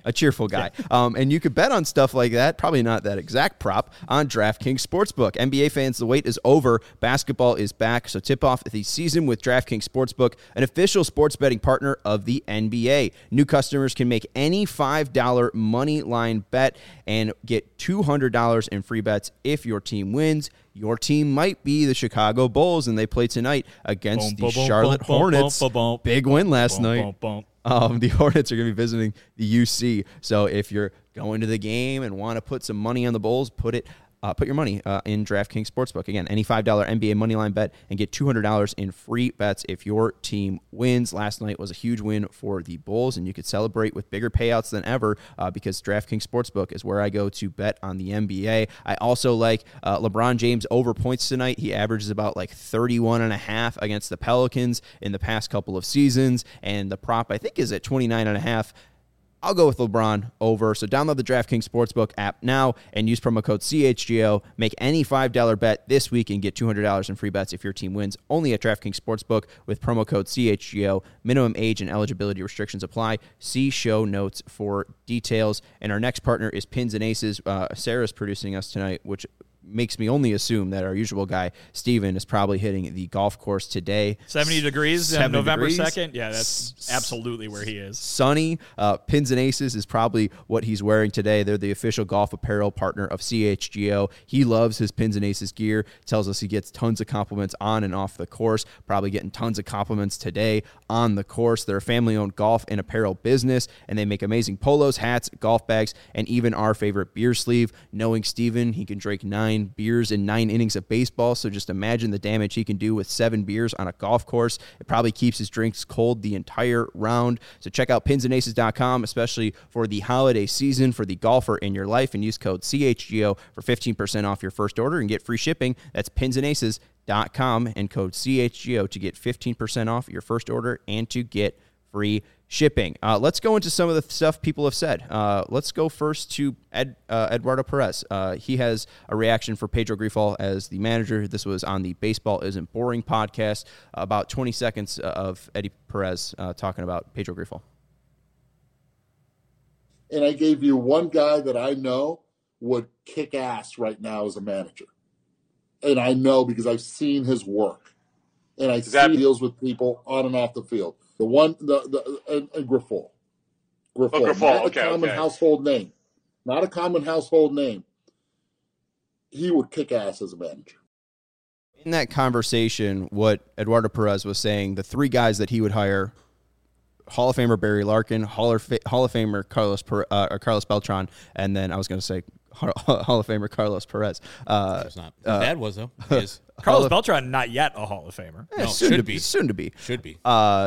And you could bet on stuff like that, probably not that exact prop, on DraftKings Sportsbook. NBA fans, the wait is over. Basketball is back, so tip off the season with DraftKings Sportsbook, an official sports betting partner of the NBA. New customers can make any $5 money line bet and get $200 in free bets if your team wins. Your team might be the Chicago Bulls, and they play tonight against the Charlotte Hornets. Big win last night. The Hornets are going to be visiting the UC. So if you're going to the game and want to put some money on the Bulls, put your money in DraftKings Sportsbook. Again, any $5 NBA moneyline bet and get $200 in free bets if your team wins. Last night was a huge win for the Bulls, and you could celebrate with bigger payouts than ever because DraftKings Sportsbook is where I go to bet on the NBA. I also like LeBron James over points tonight. He averages about like 31.5 against the Pelicans in the past couple of seasons, and the prop I think is at 29.5. I'll go with LeBron over. So download the DraftKings Sportsbook app now and use promo code CHGO. Make any $5 bet this week and get $200 in free bets if your team wins. Only at DraftKings Sportsbook with promo code CHGO. Minimum age and eligibility restrictions apply. See show notes for details. And our next partner is Pins and Aces. Sarah's producing us tonight, which makes me only assume that our usual guy, Steven, is probably hitting the golf course today. 70 degrees on November degrees. 2nd? Yeah, that's absolutely where he is. Sunny. Pins and Aces is probably what he's wearing today. They're the official golf apparel partner of CHGO. He loves his Pins and Aces gear. Tells us he gets tons of compliments on and off the course. Probably getting tons of compliments today on the course. They're a family-owned golf and apparel business, and they make amazing polos, hats, golf bags, and even our favorite beer sleeve. Knowing Steven, he can drink 9 beers in 9 innings of baseball, so just imagine the damage he can do with 7 beers on a golf course. It probably keeps his drinks cold the entire round. So check out pinsandaces.com, especially for the holiday season for the golfer in your life, and use code CHGO for 15% off your first order and get free shipping. That's pinsandaces.com and code CHGO to get 15% off your first order and to get free shipping. Let's go into some of the stuff people have said. Let's go first to Eduardo Perez. He has a reaction for Pedro Grifol as the manager. This was on the Baseball Isn't Boring podcast. About 20 seconds of Eddie Perez talking about Pedro Grifol. And I gave you one guy that I know would kick ass right now as a manager. And I know because I've seen his work. And I see he deals with people on and off the field. The one, Grifol. Grifol, not a common household name. Not a common household name. He would kick ass as a manager. In that conversation, what Eduardo Perez was saying, the 3 guys that he would hire: Hall of Famer Barry Larkin, Hall of Famer Carlos Beltran, and then I was going to say Hall of Famer Carlos Perez. It's not. His dad was, though. He is. Carlos Beltran, not yet a Hall of Famer. No, Soon to be. Should be.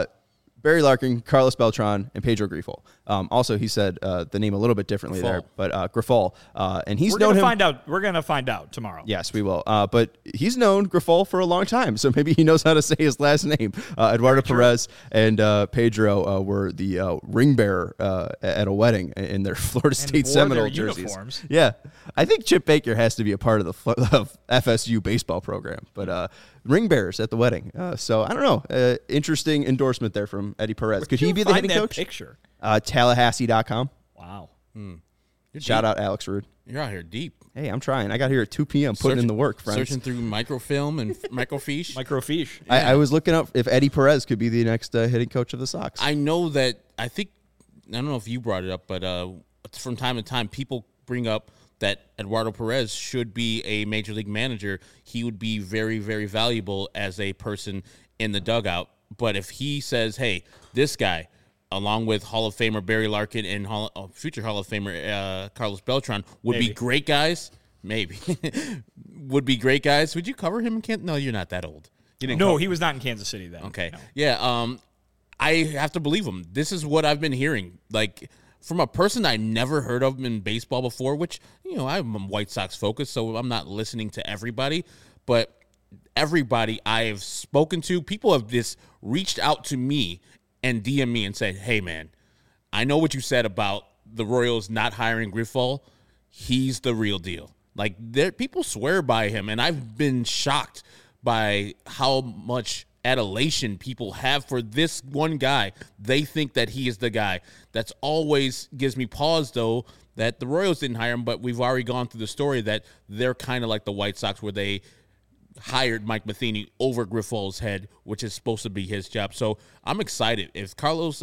Barry Larkin, Carlos Beltran, and Pedro Grifol. Also, he said the name a little bit differently there, but Grifol. And he's known him. We're going to find out tomorrow. Yes, we will. But he's known Grifol for a long time, so maybe he knows how to say his last name. Eduardo Perez and Pedro were the ring bearer at a wedding in their Florida State Seminole jerseys. Uniforms. Yeah, I think Chip Baker has to be a part of the FSU baseball program, but ring bearers at the wedding. So I don't know. Interesting endorsement there from Eddie Perez. Could he be the hitting coach? Picture? Tallahassee.com. Wow. Shout out Alex Rude. You're out here deep. Hey, I'm trying. I got here at 2 p.m. putting in the work, friends. Searching through microfilm and microfiche. Microfiche. I was looking up if Eddie Perez could be the next hitting coach of the Sox. I know that. I don't know if you brought it up, but from time to time, people bring up that Eduardo Perez should be a major league manager. He would be very, very valuable as a person in the dugout. But if he says, hey, this guy, along with Hall of Famer Barry Larkin and future Hall of Famer Carlos Beltran, would be great guys, maybe, would be great guys, would you cover him in Kansas? No, you're not that old. No, he was not in Kansas City then. Okay. No. Yeah, I have to believe him. This is what I've been hearing. Like, from a person I never heard of in baseball before, which, I'm White Sox focused, so I'm not listening to everybody, but everybody I have spoken to, people have just reached out to me and DM me and said, hey, man, I know what you said about the Royals not hiring Grifol. He's the real deal. Like, people swear by him, and I've been shocked by how much adulation people have for this one guy. They think that he is the guy. That's always gives me pause, though, that the Royals didn't hire him, but we've already gone through the story that they're kind of like the White Sox where they hired Mike Matheny over Grifol's head, which is supposed to be his job. So I'm excited. If Carlos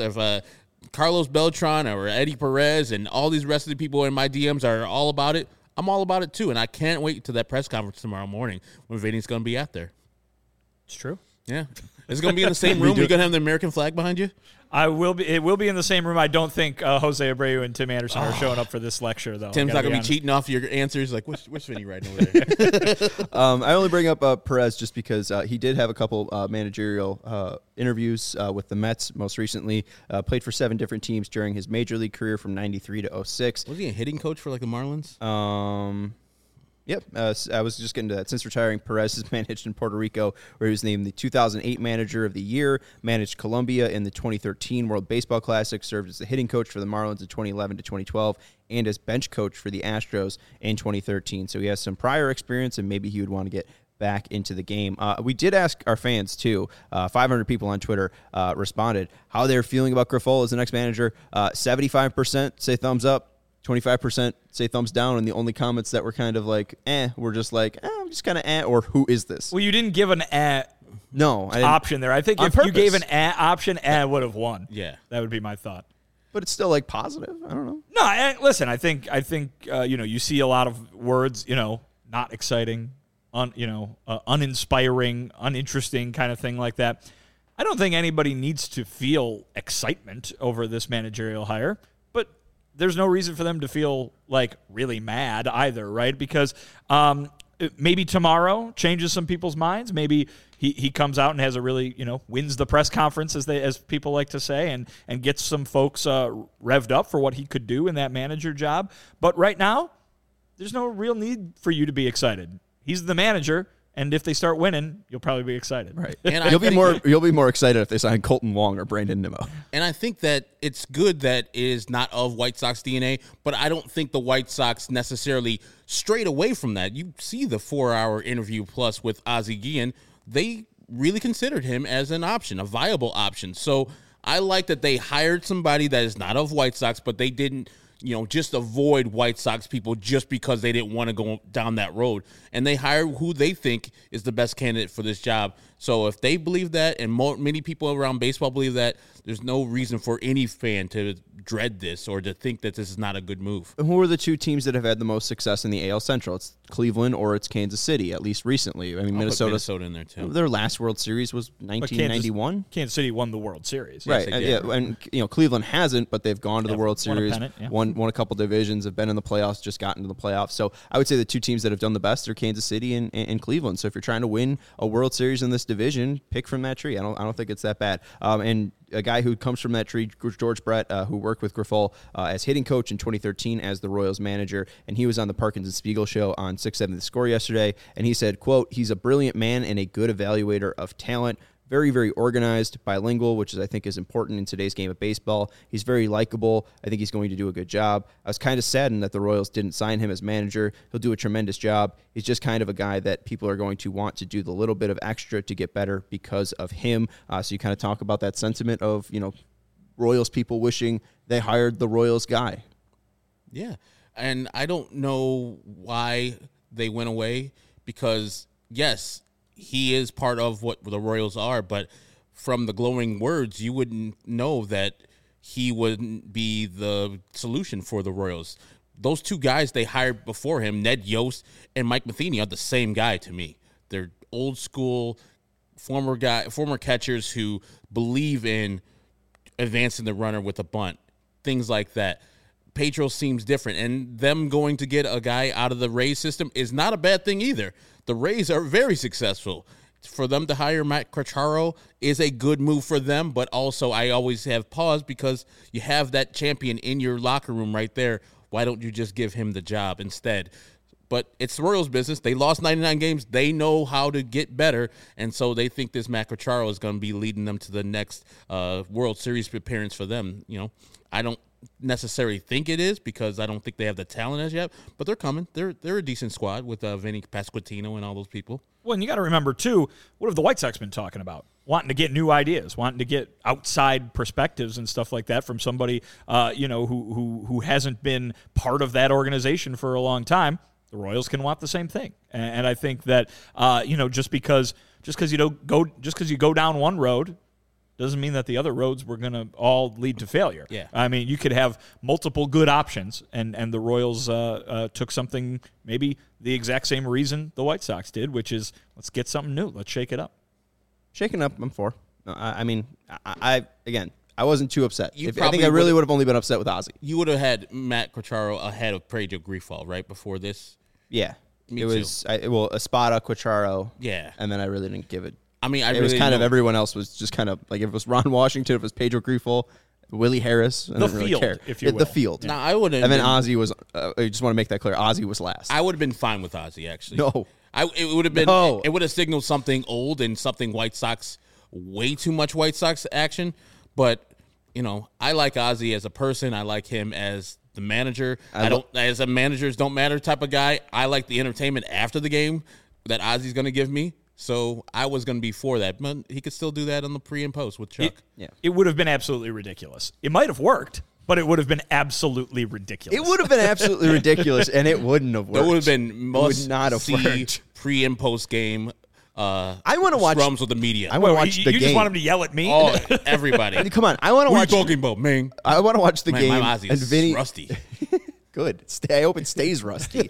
Beltran or Eddie Perez and all these rest of the people in my DMs are all about it, I'm all about it too. And I can't wait to that press conference tomorrow morning when Vinny's going to be out there. It's true. Yeah. Is it going to be in the same room? You're going to have the American flag behind you? I will be. It will be in the same room. I don't think Jose Abreu and Tim Anderson are showing up for this lecture, though. Tim's not going to be cheating off your answers. Like, what's Vinny writing over there? I only bring up Perez just because he did have a couple managerial interviews with the Mets most recently. Played for 7 different teams during his major league career from '93 to '06. Was he a hitting coach for like the Marlins? Yep, I was just getting to that. Since retiring, Perez has managed in Puerto Rico, where he was named the 2008 Manager of the Year, managed Colombia in the 2013 World Baseball Classic, served as the hitting coach for the Marlins in 2011 to 2012, and as bench coach for the Astros in 2013. So he has some prior experience, and maybe he would want to get back into the game. We did ask our fans, too. 500 people on Twitter responded how they're feeling about Grifol as the next manager. 75% say thumbs up. 25% say thumbs down, and the only comments that were kind of like, were just like, I'm just kind of or who is this? Well, you didn't give an no option there. I think if you gave an option, would have won. Yeah. That would be my thought. But it's still like positive. I don't know. No, listen, I think you see a lot of words, not exciting, uninspiring, uninteresting kind of thing like that. I don't think anybody needs to feel excitement over this managerial hire, but there's no reason for them to feel like really mad either, right? Because maybe tomorrow changes some people's minds. Maybe he comes out and has a really, wins the press conference, as people like to say, and gets some folks revved up for what he could do in that manager job. But right now, there's no real need for you to be excited. He's the manager. And if they start winning, you'll probably be excited. Right. And you'll be more excited if they sign Colton Wong or Brandon Nimmo. And I think that it's good that it is not of White Sox DNA, but I don't think the White Sox necessarily strayed away from that. You see the 4-hour interview plus with Ozzie Guillen. They really considered him as an option, a viable option. So I like that they hired somebody that is not of White Sox, but they didn't just avoid White Sox people just because they didn't want to go down that road. And they hire who they think is the best candidate for this job. So if they believe that, and many people around baseball believe that, there's no reason for any fan to dread this or to think that this is not a good move. Who are the two teams that have had the most success in the AL Central? It's Cleveland or it's Kansas City, at least recently. I mean, Minnesota in there too. Their last World Series was 1991. Kansas City won the World Series. Right. Yes, and Cleveland hasn't, but they've gone to the World Series, won won a couple divisions, have been in the playoffs, just gotten to the playoffs. So I would say the two teams that have done the best are Kansas City and Cleveland. So if you're trying to win a World Series in this division, pick from that tree. I don't think it's that bad. And a guy who comes from that tree, George Brett, who worked with Grifol as hitting coach in 2013 as the Royals manager, and he was on the Parkins and Spiegel show on 670 The Score yesterday, and he said, quote, "He's a brilliant man and a good evaluator of talent. Very, very organized, bilingual, which I think is important in today's game of baseball. He's very likable. I think he's going to do a good job. I was kind of saddened that the Royals didn't sign him as manager. He'll do a tremendous job. He's just kind of a guy that people are going to want to do the little bit of extra to get better because of him." So you kind of talk about that sentiment of, Royals people wishing they hired the Royals guy. Yeah, and I don't know why they went away because, yes, he is part of what the Royals are, but from the glowing words, you wouldn't know that he wouldn't be the solution for the Royals. Those two guys they hired before him, Ned Yost and Mike Matheny, are the same guy to me. They're old school former catchers who believe in advancing the runner with a bunt, things like that. Pedro seems different, and them going to get a guy out of the Rays system is not a bad thing either. The Rays are very successful. For them to hire Matt Quatraro is a good move for them, but also I always have pause because you have that champion in your locker room right there. Why don't you just give him the job instead? But it's the Royals' business. They lost 99 games. They know how to get better, and so they think this Matt Quatraro is going to be leading them to the next World Series appearance for them. I don't necessarily think it is because I don't think they have the talent as yet, but they're coming. They're a decent squad with Vinny Pasquantino and all those people. Well, and you got to remember, too, what have the White Sox been talking about? Wanting to get new ideas, wanting to get outside perspectives and stuff like that from somebody, who hasn't been part of that organization for a long time. The Royals can want the same thing, and I think that just because you go down one road doesn't mean that the other roads were going to all lead to failure. Yeah. I mean, you could have multiple good options, and the Royals took something maybe the exact same reason the White Sox did, which is let's get something new, let's shake it up. Shaking up, I'm for. I wasn't too upset. I think I really would have only been upset with Ozzie. You would have had Matt Quatraro ahead of Pedro Grifol, right, before this? Yeah. Me it too. was, Espada, Quatraro. Yeah. And then I really didn't give it. I mean, It was kind of everyone else was just kind of like if it was Ron Washington, if it was Pedro Grifol, Willie Harris. I The don't really field, care. if you The will. field. Now I wouldn't. And then Ozzy was. I just want to make that clear. Ozzy was last. I would have been fine with Ozzy actually. No. It would have been. No. It would have signaled something old and something White Sox. Way too much White Sox action, but I like Ozzy as a person. I like him as the manager. I don't as a managers don't matter type of guy. I like the entertainment after the game that Ozzy's going to give me. So I was going to be for that, but he could still do that on the pre and post with Chuck. It would have been absolutely ridiculous. It might have worked, but it would have been absolutely ridiculous. It would have been absolutely ridiculous, and it wouldn't have worked. It would have been must not have see worked. pre and post game. I want to watch scrums with the media. I want to watch you the game. just want him to yell at me? Oh, everybody! Come on, I want to What are watch. you talking about, man? I want to watch the game. My Ozzy and is Vinny, rusty. Good. I hope it stays rusty.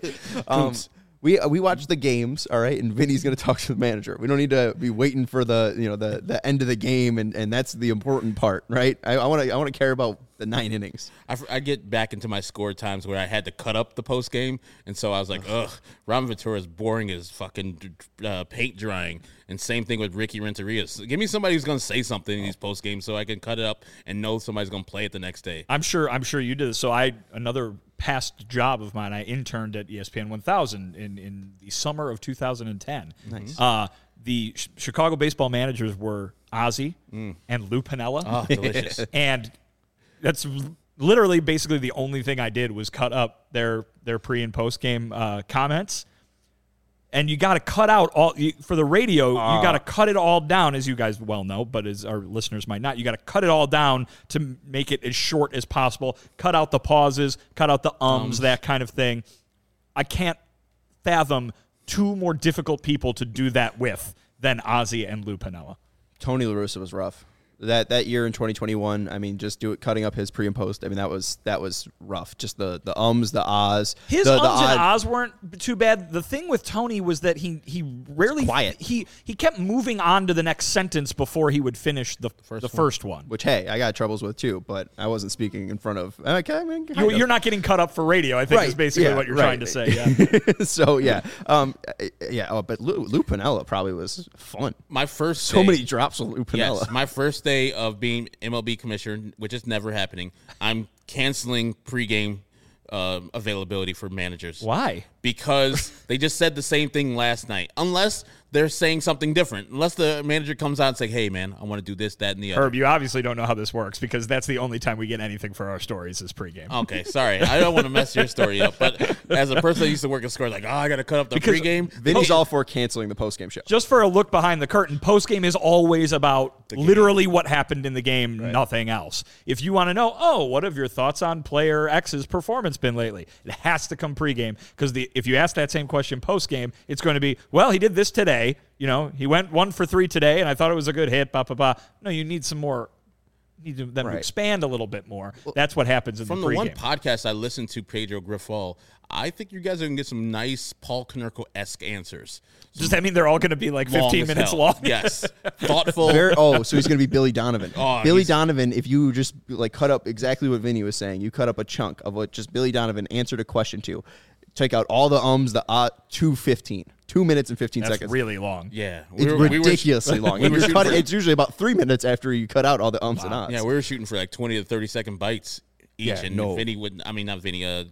We watch the games, all right, and Vinny's going to talk to the manager. We don't need to be waiting for the end of the game, and that's the important part, right? I want to care about the 9 innings. I get back into my score times where I had to cut up the post game, and so I was like, ugh, Robin Ventura is boring as fucking paint drying. And same thing with Ricky Renteria. So give me somebody who's going to say something in these post games so I can cut it up and know somebody's going to play it the next day. I'm sure you did this. So another past job of mine, I interned at ESPN 1000 in the summer of 2010. Nice. The Chicago baseball managers were Ozzy and Lou Piniella. Oh, delicious. And that's literally basically the only thing I did was cut up their pre and post game comments. And you got to cut out for the radio. You got to cut it all down, as you guys well know, but as our listeners might not. You got to cut it all down to make it as short as possible. Cut out the pauses, cut out the that kind of thing. I can't fathom 2 more difficult people to do that with than Ozzy and Lou Piniella. Tony La Russa was rough. That year in 2021, I mean, just cutting up his pre and post. I mean, that was rough. Just the the ahs. His the and ahs weren't too bad. The thing with Tony was that he rarely quiet. He kept moving on to the next sentence before he would finish the first one. Which, hey, I got troubles with too, but I wasn't speaking in front of. Okay, I mean, You're not getting cut up for radio, I think, is basically what you're trying to say. Yeah. So yeah, but Lou Piniella probably was fun. My first so many drops with Lou Piniella. Yes, my first day of being MLB commissioner, which is never happening, I'm canceling pregame availability for managers. Why? Because they just said the same thing last night. Unless they're saying something different. Unless the manager comes out and say, hey, man, I want to do this, that, and the other. Herb, you obviously don't know how this works because that's the only time we get anything for our stories is pregame. Okay, sorry. I don't want to mess your story up. But as a person that used to work at scores, like, I got to cut up the pregame. Vinny's all for canceling the postgame show. Just for a look behind the curtain, postgame is always about literally what happened in the game, nothing else. If you want to know, what have your thoughts on player X's performance been lately? It has to come pregame because if you ask that same question postgame, it's going to be, well, he did this today. He went 1 for 3 today, and I thought it was a good hit. No, you need some more. You need them to expand a little bit more. That's what happens in the pregame. From the one podcast I listened to, Pedro Grifol, I think you guys are going to get some nice Paul Konerko-esque answers. Does that mean they're all going to be like 15 minutes long? Yes. Thoughtful. So he's going to be Billy Donovan. Billy Donovan, if you just cut up exactly what Vinny was saying, you cut up a chunk of what just Billy Donovan answered a question to. Take out all the the 2:15. 2 minutes and 15 seconds. That's really long. Yeah. It's ridiculously long. It's usually about 3 minutes after you cut out all the and ahs. Yeah, we were shooting for like 20 to 30 second bites each. Yeah, and Vinny would, not Vinny,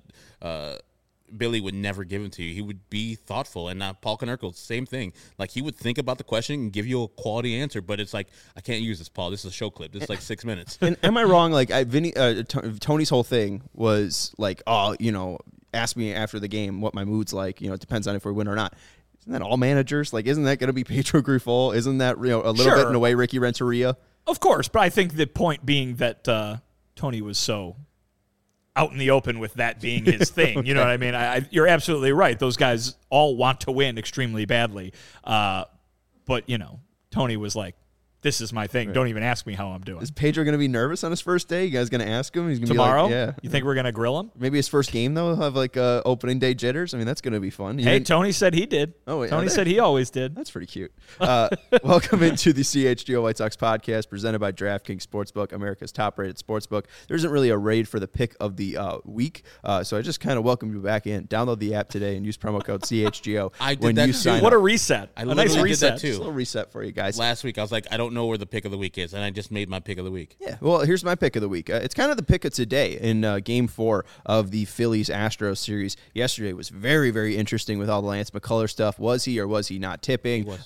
Billy would never give them to you. He would be thoughtful. And Paul Konerko, same thing. Like, he would think about the question and give you a quality answer, but it's like, I can't use this, Paul. This is a show clip. This is like 6 minutes. And am I wrong? Like, Tony's whole thing was like, ask me after the game what my mood's like. It depends on if we win or not. Isn't that all managers? Like, isn't that going to be Pedro Grifol? Isn't that a little bit in a way Ricky Renteria? Of course, but I think the point being that Tony was so out in the open with that being his thing. You know what I mean? You're absolutely right. Those guys all want to win extremely badly. But, Tony was like, this is my thing. Right. Don't even ask me how I'm doing. Is Pedro going to be nervous on his first day? You guys going to ask him? He's going to tomorrow? Be like, yeah. You think we're going to grill him? Maybe his first game, though, he'll have like opening day jitters. I mean, that's going to be fun. Tony said he did. Oh, yeah, Tony said he always did. That's pretty cute. Welcome into the CHGO White Sox podcast presented by DraftKings Sportsbook, America's top-rated sportsbook. There isn't really a raid for the pick of the week, so I just kind of welcome you back in. Download the app today and use promo code CHGO I did when that you sign up. What a reset. A nice reset, too. Just a little reset for you guys. Last week, I was like, I don't don't know where the pick of the week is, and I just made my pick of the week. Yeah, well, here's my pick of the week. It's kind of the pick of today in Game 4 of the Phillies-Astros series. Yesterday was very, very interesting with all the Lance McCullers stuff. Was he or was he not tipping? He was.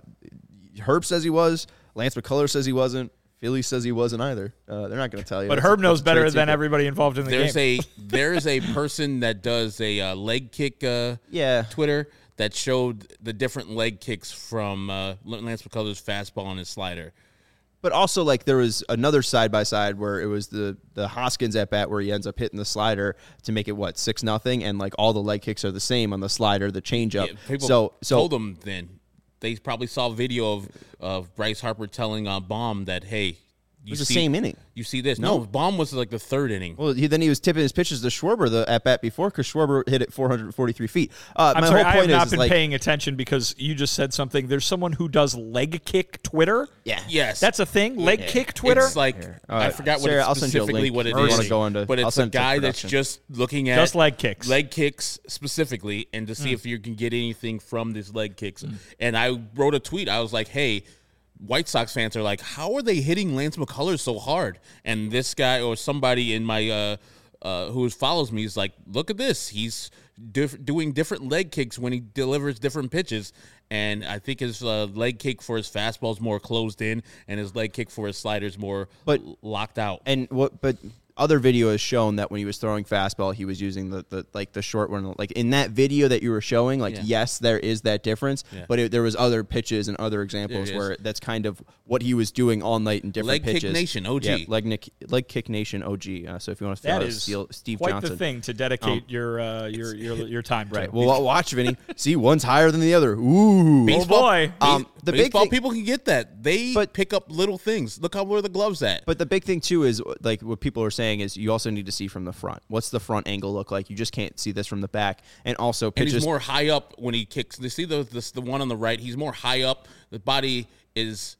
Herb says he was. Lance McCullers says he wasn't. Philly says he wasn't either. They're not going to tell you. But Herb knows better than everybody involved in the game. There's a person that does a leg kick Twitter that showed the different leg kicks from Lance McCullers' fastball and his slider. But also, like, there was another side-by-side where it was the Hoskins at-bat where he ends up hitting the slider to make it, 6-0, and, like, all the leg kicks are the same on the slider, the changeup. Yeah, people told him then. They probably saw a video of Bryce Harper telling Baum that, hey, it was the same inning. You see this? No, Baum was like the third inning. Well, then he was tipping his pitches to Schwarber the at-bat before because Schwarber hit it 443 feet. I'm sorry, I have not been paying attention because you just said something. There's someone who does leg kick Twitter. Yeah. Yes. That's a thing? Leg kick Twitter? It's like, I forgot Sarah, what specifically what it is. But it's a guy that's just looking at just leg kicks. Leg kicks specifically and to see if you can get anything from these leg kicks. And I wrote a tweet. I was like, hey, White Sox fans are like, how are they hitting Lance McCullers so hard? And this guy or somebody in my who follows me is like, look at this. He's doing different leg kicks when he delivers different pitches. And I think his leg kick for his fastball is more closed in, and his leg kick for his slider is more locked out. But other video has shown that when he was throwing fastball, he was using the short one. Like in that video that you were showing, yes, there is that difference, but there was other pitches and other examples where that's kind of what he was doing all night in different pitches. Leg Kick Nation OG. Yeah, leg Kick Nation OG. So if you want to follow Steve quite Johnson. the thing to dedicate your time to. Right. Well, watch, Vinny. See, one's higher than the other. Ooh. Baseball, boy. The baseball big thing, people can get that. They pick up little things. Look where the glove's at. But the big thing, too, is like what people are saying is you also need to see from the front. What's the front angle look like? You just can't see this from the back. And also pitches. And he's more high up when he kicks. You see the one on the right? He's more high up. The body is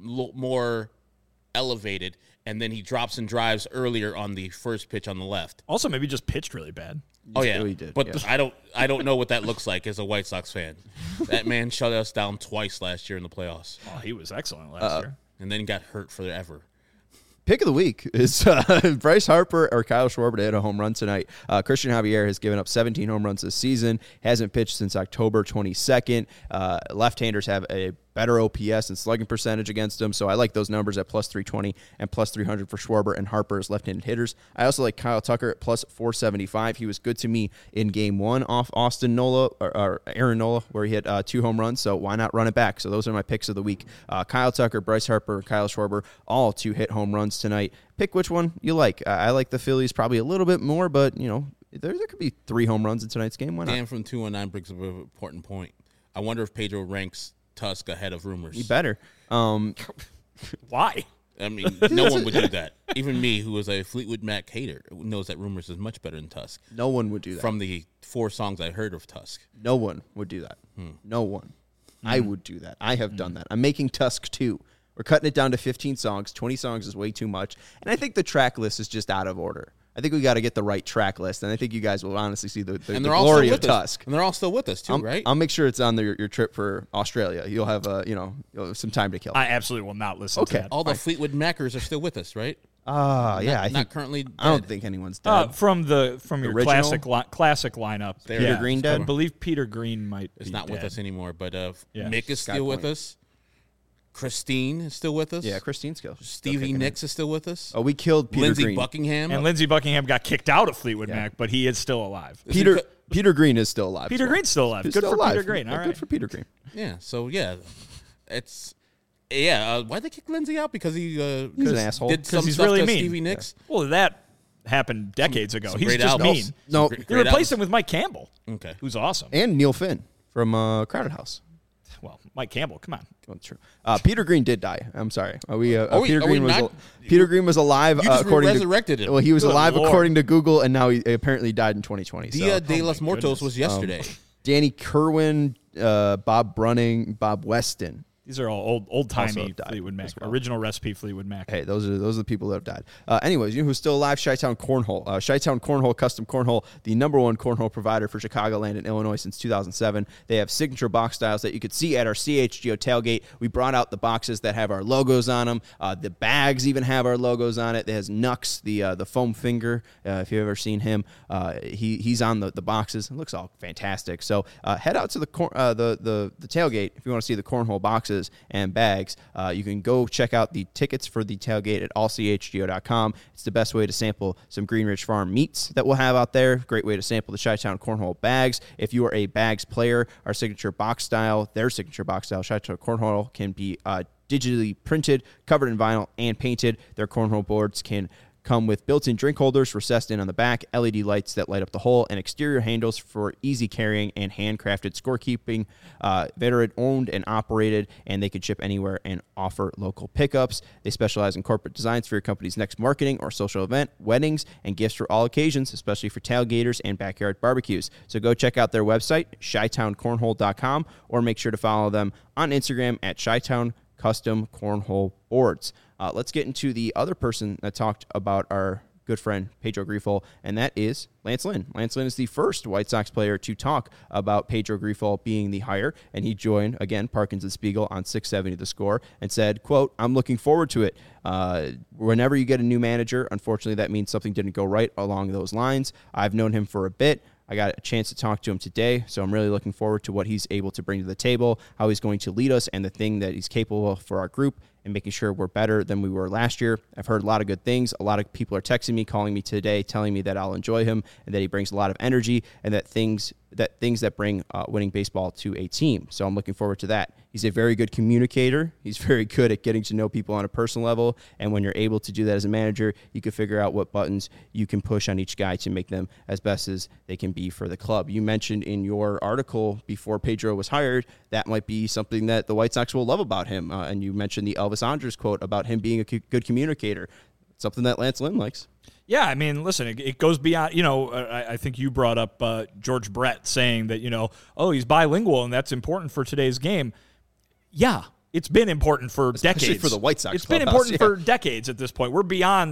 more elevated. And then he drops and drives earlier on the first pitch on the left. Also, maybe just pitched really bad. Oh yeah, he did. But I don't know what that looks like as a White Sox fan. That man shut us down twice last year in the playoffs. Oh, he was excellent last year. And then got hurt forever. Pick of the week is Bryce Harper or Kyle Schwarber to hit a home run tonight. Christian Javier has given up 17 home runs this season. Hasn't pitched since October 22nd. Left-handers have a better OPS and slugging percentage against him, so I like those numbers at plus 320 and plus 300 for Schwarber and Harper as left-handed hitters. I also like Kyle Tucker at plus 475. He was good to me in Game 1 off Austin Nola or Aaron Nola, where he hit 2 home runs, so why not run it back? So those are my picks of the week. Kyle Tucker, Bryce Harper, Kyle Schwarber, all to hit home runs tonight. Pick which one you like. I like the Phillies probably a little bit more, but, there could be 3 home runs in tonight's game. Why not? Dan from 219 brings up an important point. I wonder if Pedro ranks Tusk ahead of Rumors. He better. Why? I mean, no one would do that. Even me, who is a Fleetwood Mac hater, knows that Rumors is much better than Tusk. No one would do that. From the 4 songs I heard of Tusk. No one would do that. No one. I would do that. I have done that. I'm making Tusk 2. We're cutting it down to 15 songs. 20 songs is way too much. And I think the track list is just out of order. I think we got to get the right track list, and I think you guys will honestly see the glory of Tusk. And they're all still with us, too, right? I'll make sure it's on your trip for Australia. You'll have you'll have some time to kill. I absolutely will not listen to that. All the Fleetwood Macers are still with us, right? Yeah. I think currently dead. I don't think anyone's dead. From your original? classic lineup. Peter Green dead? I believe Peter Green might It's be not dead. with us anymore, but Yeah. Mick is still with us. Christine is still with us. Yeah, Christine Skill. Stevie Nicks is still with us. Oh, we killed Peter Lindsey Green. Buckingham. And Lindsey Buckingham got kicked out of Fleetwood Mac, but he is still alive. Peter Green is still alive. Peter Green's still alive. He's Good still for alive. Peter Green. All right. Good for Peter Green. Yeah, so it's why'd they kick Lindsey out? Because he's an asshole. Did some he's stuff really to mean. Stevie Nicks. Well, that happened decades ago. some He's great just albums. mean. No, They replaced him with Mike Campbell, Okay. who's awesome. and Neil Finn from Crowded House. Well, Mike Campbell, come on. That's true. Peter Green did die. I'm sorry. Peter Green was alive. You just according resurrected to, him. Well, he was Good alive Lord. according to Google, and now he apparently died in 2020. Dia de los Muertos goodness. was yesterday. Danny Kerwin, Bob Brunning, Bob Weston. These are all old-timey Also died Fleetwood Mac, as well. original recipe Fleetwood Mac. Hey, those are the people that have died. Anyways, you know who's still alive? Chi-Town Cornhole. Chi-Town Cornhole, custom cornhole, the #1 cornhole provider for Chicagoland and Illinois since 2007. They have signature box styles that you could see at our CHGO tailgate. We brought out the boxes that have our logos on them. The bags even have our logos on it. It has Nux, the foam finger. If you've ever seen him, he's on the boxes. It looks all fantastic. So head out to the tailgate if you want to see the cornhole boxes and bags. You can go check out the tickets for the tailgate at allchgo.com. It's the best way to sample some Green Ridge Farm meats that we'll have out there. Great way to sample the Chi-Town Cornhole bags. If you are a bags player, our signature box style, their signature box style, Chi-Town Cornhole, can be digitally printed, covered in vinyl, and painted. Their cornhole boards can come with built-in drink holders recessed in on the back, LED lights that light up the hole, and exterior handles for easy carrying and handcrafted scorekeeping. Veteran-owned and operated, and they can ship anywhere and offer local pickups. They specialize in corporate designs for your company's next marketing or social event, weddings, and gifts for all occasions, especially for tailgaters and backyard barbecues. So go check out their website, chitowncornhole.com, or make sure to follow them on Instagram at Chi-Town Custom Cornhole Boards. Let's get into the other person that talked about our good friend Pedro Grifol, and that is Lance Lynn. Lance Lynn is the first White Sox player to talk about Pedro Grifol being the hire, and he joined, again, Parkins and Spiegel on 670 The Score, and said, quote, "I'm looking forward to it. Whenever you get a new manager, unfortunately that means something didn't go right along those lines. I've known him for a bit. I got a chance to talk to him today, so I'm really looking forward to what he's able to bring to the table, how he's going to lead us, and the thing that he's capable of for our group, and making sure we're better than we were last year. I've heard a lot of good things. A lot of people are texting me, calling me today, telling me that I'll enjoy him and that he brings a lot of energy and that things that bring winning baseball to a team. So I'm looking forward to that. He's a very good communicator. He's very good at getting to know people on a personal level. And when you're able to do that as a manager, you can figure out what buttons you can push on each guy to make them as best as they can be for the club. You mentioned in your article before Pedro was hired, that might be something that the White Sox will love about him. And you mentioned the Elvis Andrus quote about him being a good communicator. Something that Lance Lynn likes. Yeah, I mean, listen, it goes beyond, I think you brought up George Brett saying that, he's bilingual and that's important for today's game. Yeah, it's been important for Especially decades. for the White Sox. It's been important for decades at this point. We're beyond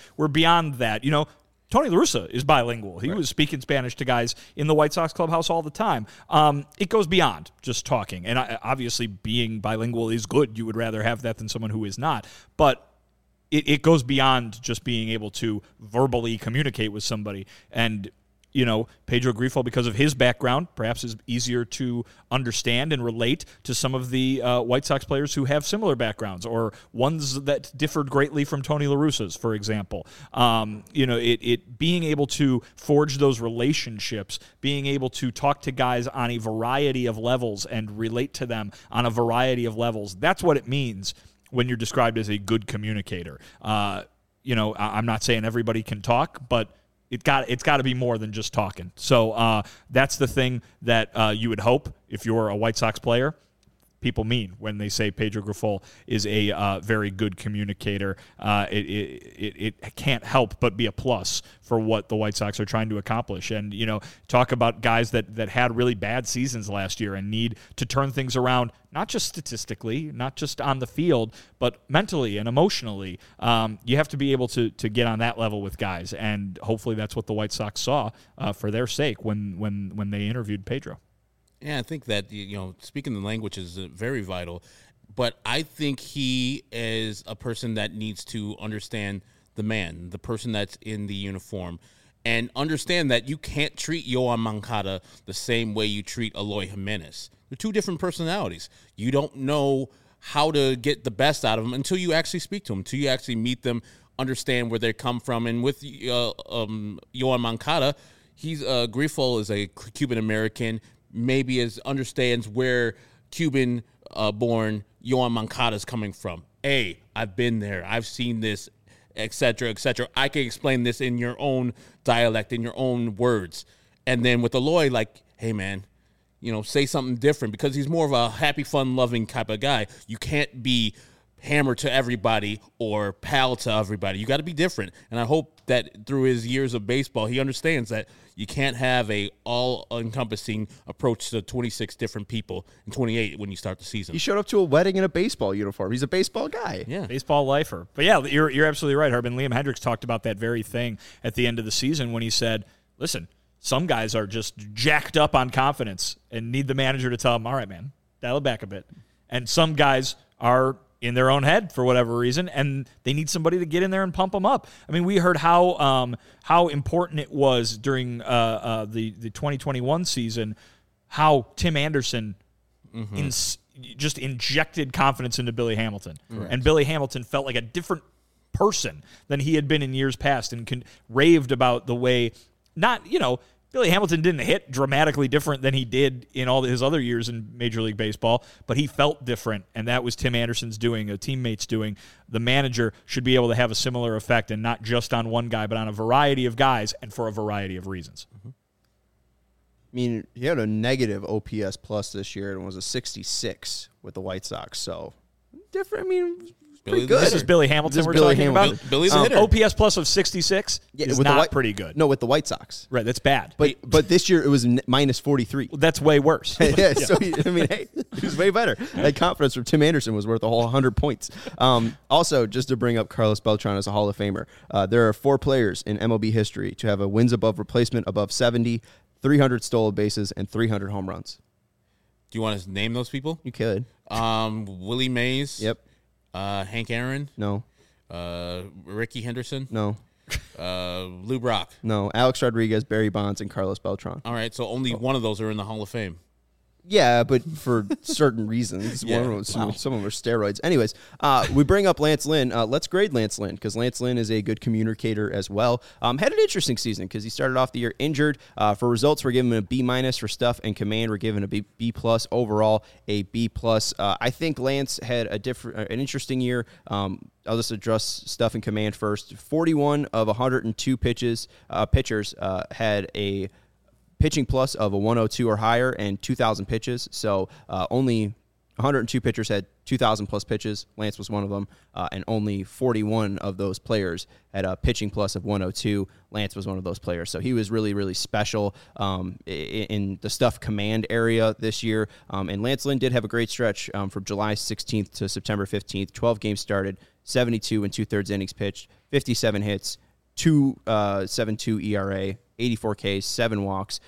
that. Tony La Russa is bilingual. He was speaking Spanish to guys in the White Sox clubhouse all the time. It goes beyond just talking. And obviously being bilingual is good. You would rather have that than someone who is not. But it goes beyond just being able to verbally communicate with somebody. And, Pedro Grifol, because of his background, perhaps is easier to understand and relate to some of the White Sox players who have similar backgrounds or ones that differed greatly from Tony La Russa's, for example. It being able to forge those relationships, being able to talk to guys on a variety of levels and relate to them on a variety of levels, that's what it means when you're described as a good communicator. I'm not saying everybody can talk, but it's got to be more than just talking. So that's the thing that you would hope if you're a White Sox player. People mean when they say Pedro Grifol is a very good communicator. It can't help but be a plus for what the White Sox are trying to accomplish. And, talk about guys that had really bad seasons last year and need to turn things around, not just statistically, not just on the field, but mentally and emotionally. You have to be able to get on that level with guys. And hopefully that's what the White Sox saw for their sake when they interviewed Pedro. Yeah, I think that, speaking the language is very vital, but I think he is a person that needs to understand the man, the person that's in the uniform, and understand that you can't treat Yoan Moncada the same way you treat Eloy Jimenez. They're two different personalities. You don't know how to get the best out of them until you actually speak to them, until you actually meet them, understand where they come from. And with Yoan Moncada, Grifol is a Cuban-American, maybe understands where Cuban-born Yoan Moncada is coming from. Hey, I've been there. I've seen this, et cetera, et cetera. I can explain this in your own dialect, in your own words. And then with Eloy, like, hey, man, say something different because he's more of a happy, fun-loving type of guy. You can't be hammer to everybody or pal to everybody. You got to be different. And I hope that through his years of baseball, he understands that You can't have a all-encompassing approach to 26 different people and 28 when you start the season. He showed up to a wedding in a baseball uniform. He's a baseball guy. Yeah. Baseball lifer. But yeah, you're absolutely right, Harbin. Liam Hendriks talked about that very thing at the end of the season when he said, listen, some guys are just jacked up on confidence and need the manager to tell them, all right, man, dial it back a bit. And some guys are in their own head for whatever reason, and they need somebody to get in there and pump them up. I mean, we heard how important it was during the 2021 season, how Tim Anderson just injected confidence into Billy Hamilton. Correct. And Billy Hamilton felt like a different person than he had been in years past and raved about the way, Billy Hamilton didn't hit dramatically different than he did in all his other years in Major League Baseball, but he felt different, and that was Tim Anderson's doing, a teammate's doing. The manager should be able to have a similar effect, and not just on one guy, but on a variety of guys and for a variety of reasons. I mean, he had a negative OPS plus this year and was a 66 with the White Sox, so different. I mean, pretty good. This is Billy Hamilton we're talking about. Billy's a hitter. OPS plus of 66 is not pretty good. No, with the White Sox. Right, that's bad. But this year it was minus 43. Well, that's way worse. Yeah, so he was way better. That confidence from Tim Anderson was worth a whole 100 points. Also, just to bring up Carlos Beltran as a Hall of Famer, there are 4 players in MLB history to have a wins above replacement above 70, 300 stolen bases, and 300 home runs. Do you want to name those people? You could. Willie Mays. Yep. Hank Aaron. No. Ricky Henderson. No. Lou Brock. No. Alex Rodriguez, Barry Bonds, and Carlos Beltran. All right, so only one of those are in the Hall of Fame. Yeah, but for certain reasons. Yeah. One of them, some of them are steroids. Anyways, we bring up Lance Lynn. Let's grade Lance Lynn because Lance Lynn is a good communicator as well. Had an interesting season because he started off the year injured. For results, we're giving him a B- for stuff and command. We're giving a B+. Overall, a B+. I think Lance had an interesting year. I'll just address stuff and command first. 41 of 102 pitchers had a pitching plus of a 102 or higher and 2,000 pitches. So only 102 pitchers had 2,000 plus pitches. Lance was one of them. And only 41 of those players had a pitching plus of 102. Lance was one of those players. So he was really, really special in the stuff command area this year. And Lance Lynn did have a great stretch from July 16th to September 15th. 12 games started, 72 and 2/3 innings pitched, 57 hits, 2.72 ERA, 84 Ks, 7 walks,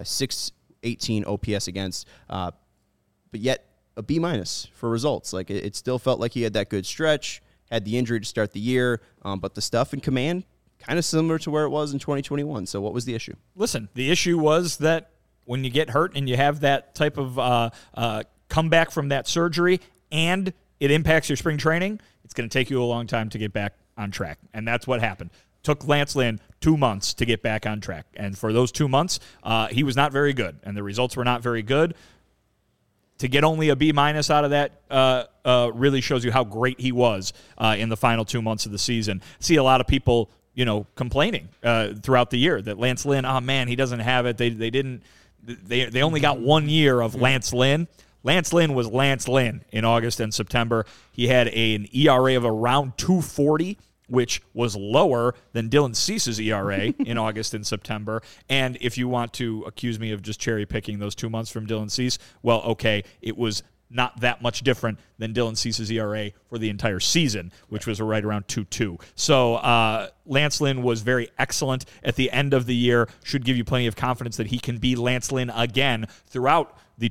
618 OPS against, but yet a B- for results. Like it still felt like he had that good stretch, had the injury to start the year, but the stuff in command kind of similar to where it was in 2021. So what was the issue? Listen, the issue was that when you get hurt and you have that type of comeback from that surgery and it impacts your spring training, it's going to take you a long time to get back on track. And that's what happened. Took Lance Lynn 2 months to get back on track. And for those 2 months, he was not very good. And the results were not very good. To get only a B- out of that really shows you how great he was in the final 2 months of the season. See a lot of people, complaining throughout the year that Lance Lynn, oh man, he doesn't have it. They only got 1 year of Lance Lynn. Lance Lynn was Lance Lynn in August and September. He had an ERA of around 2.40, which was lower than Dylan Cease's ERA in August and September. And if you want to accuse me of just cherry-picking those 2 months from Dylan Cease, well, okay, it was not that much different than Dylan Cease's ERA for the entire season, which was right around 2.2. So Lance Lynn was very excellent at the end of the year, should give you plenty of confidence that he can be Lance Lynn again throughout the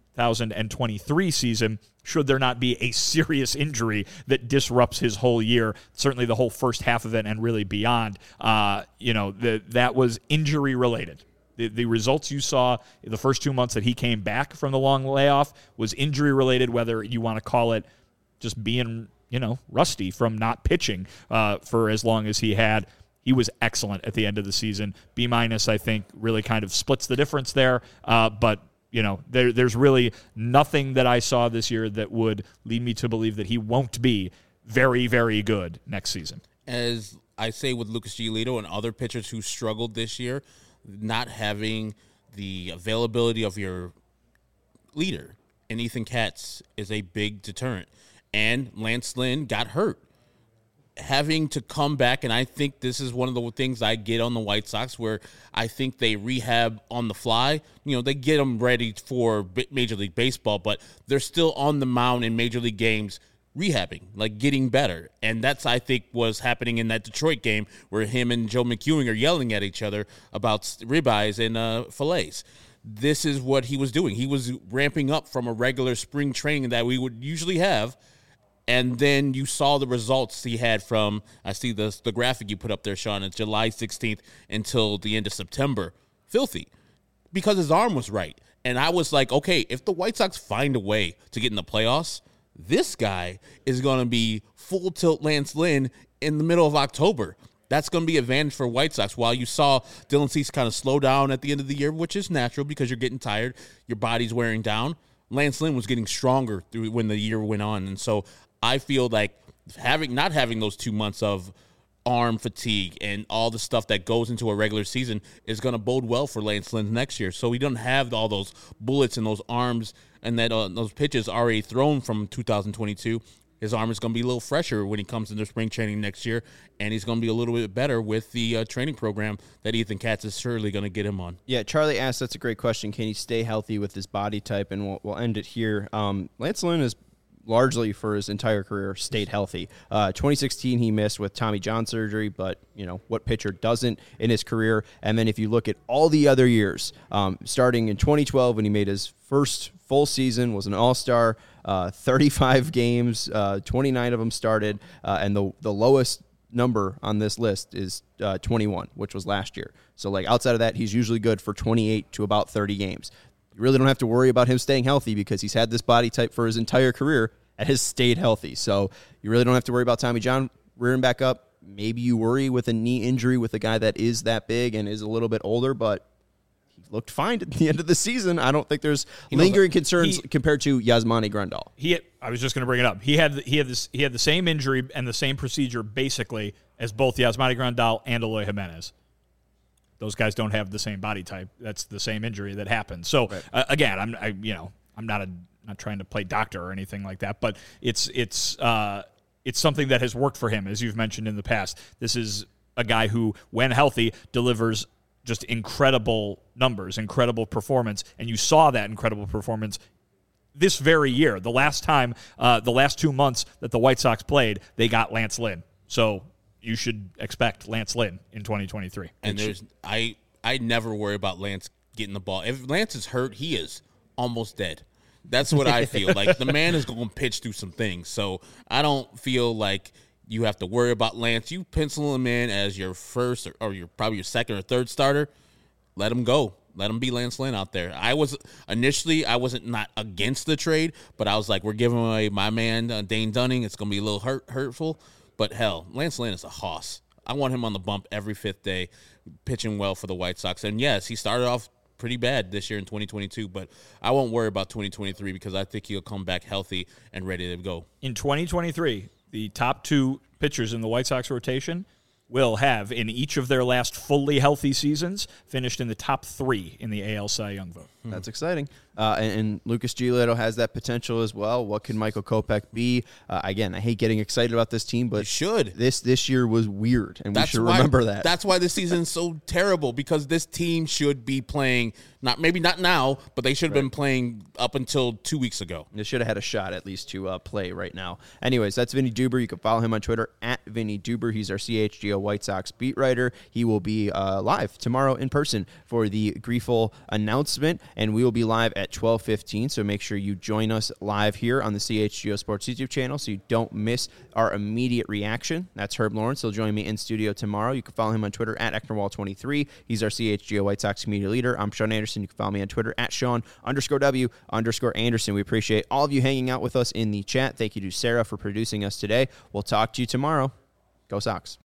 2023 season, should there not be a serious injury that disrupts his whole year, certainly the whole first half of it and really beyond. That was injury-related. The results you saw in the first 2 months that he came back from the long layoff was injury-related, whether you want to call it just being, rusty from not pitching for as long as he had. He was excellent at the end of the season. B-, I think, really kind of splits the difference there, but there's really nothing that I saw this year that would lead me to believe that he won't be very, very good next season. As I say with Lucas Giolito and other pitchers who struggled this year, not having the availability of your leader in Ethan Katz is a big deterrent. And Lance Lynn got hurt. having to come back, and I think this is one of the things I get on the White Sox, where I think they rehab on the fly. They get them ready for Major League Baseball, but they're still on the mound in Major League games rehabbing, like getting better. And that's, I think, was happening in that Detroit game where him and Joe McEwing are yelling at each other about ribeyes and fillets. This is what he was doing. He was ramping up from a regular spring training that we would usually have. And then you saw the results he had from, I see the graphic you put up there, Sean, it's July 16th until the end of September. Filthy. Because his arm was right. And I was like, okay, if the White Sox find a way to get in the playoffs, this guy is going to be full tilt Lance Lynn in the middle of October. That's going to be an advantage for White Sox. While you saw Dylan Cease kind of slow down at the end of the year, which is natural because you're getting tired, your body's wearing down, Lance Lynn was getting stronger when the year went on. And so I feel like not having those 2 months of arm fatigue and all the stuff that goes into a regular season is going to bode well for Lance Lynn next year. So we don't have all those bullets and those arms and that those pitches already thrown from 2022. His arm is going to be a little fresher when he comes into spring training next year, and he's going to be a little bit better with the training program that Ethan Katz is surely going to get him on. Yeah, Charlie asked, that's a great question. Can he stay healthy with his body type? And we'll end it here. Lance Lynn is largely for his entire career stayed healthy. 2016 he missed with Tommy John surgery, but what pitcher doesn't in his career? And then if you look at all the other years, starting in 2012 when he made his first full season, was an all-star, 35 games, 29 of them started, and the lowest number on this list is 21, which was last year. So outside of that, he's usually good for 28 to about 30 games. You really don't have to worry about him staying healthy because he's had this body type for his entire career and has stayed healthy. So you really don't have to worry about Tommy John rearing back up. Maybe you worry with a knee injury with a guy that is that big and is a little bit older, but he looked fine at the end of the season. I don't think there's lingering concerns compared to Yasmani Grandal. I was just going to bring it up. He had the same injury and the same procedure basically as both Yasmani Grandal and Eloy Jimenez. Those guys don't have the same body type. That's the same injury that happened. So again, I'm not trying to play doctor or anything like that, but it's something that has worked for him, as you've mentioned in the past. This is a guy who, when healthy, delivers just incredible numbers, incredible performance, and you saw that incredible performance this very year. The last 2 months that the White Sox played, they got Lance Lynn. So you should expect Lance Lynn in 2023. And I never worry about Lance getting the ball. If Lance is hurt, he is almost dead. That's what I feel. The man is going to pitch through some things. So I don't feel like you have to worry about Lance. You pencil him in as your first or probably your second or third starter. Let him go. Let him be Lance Lynn out there. I wasn't not against the trade, but I was like, we're giving away my man, Dane Dunning. It's going to be a little hurtful. But hell, Lance Lynn is a hoss. I want him on the bump every fifth day, pitching well for the White Sox. And yes, he started off pretty bad this year in 2022, but I won't worry about 2023 because I think he'll come back healthy and ready to go. In 2023, the top two pitchers in the White Sox rotation will have, in each of their last fully healthy seasons, finished in the top 3 in the AL Cy Young vote. That's exciting. And Lucas Giolito has that potential as well. What can Michael Kopech be? Again, I hate getting excited about this team, but this year was weird, and we should remember that. That's why this season is so terrible, because this team should be playing, maybe not now, but they should have been playing up until 2 weeks ago. They should have had a shot at least to play right now. Anyways, that's Vinny Duber. You can follow him on Twitter at Vinny Duber. He's our CHGO White Sox beat writer. He will be live tomorrow in person for the Griefel announcement, and we will be live at 12:15, so make sure you join us live here on the CHGO Sports YouTube channel so you don't miss our immediate reaction. That's Herb Lawrence. He'll join me in studio tomorrow. You can follow him on Twitter at Ecknerwall23. He's our CHGO White Sox community leader. I'm Sean Anderson. You can follow me on Twitter at Sean_W_Anderson. We appreciate all of you hanging out with us in the chat. Thank you to Sarah for producing us today. We'll talk to you tomorrow. Go Sox.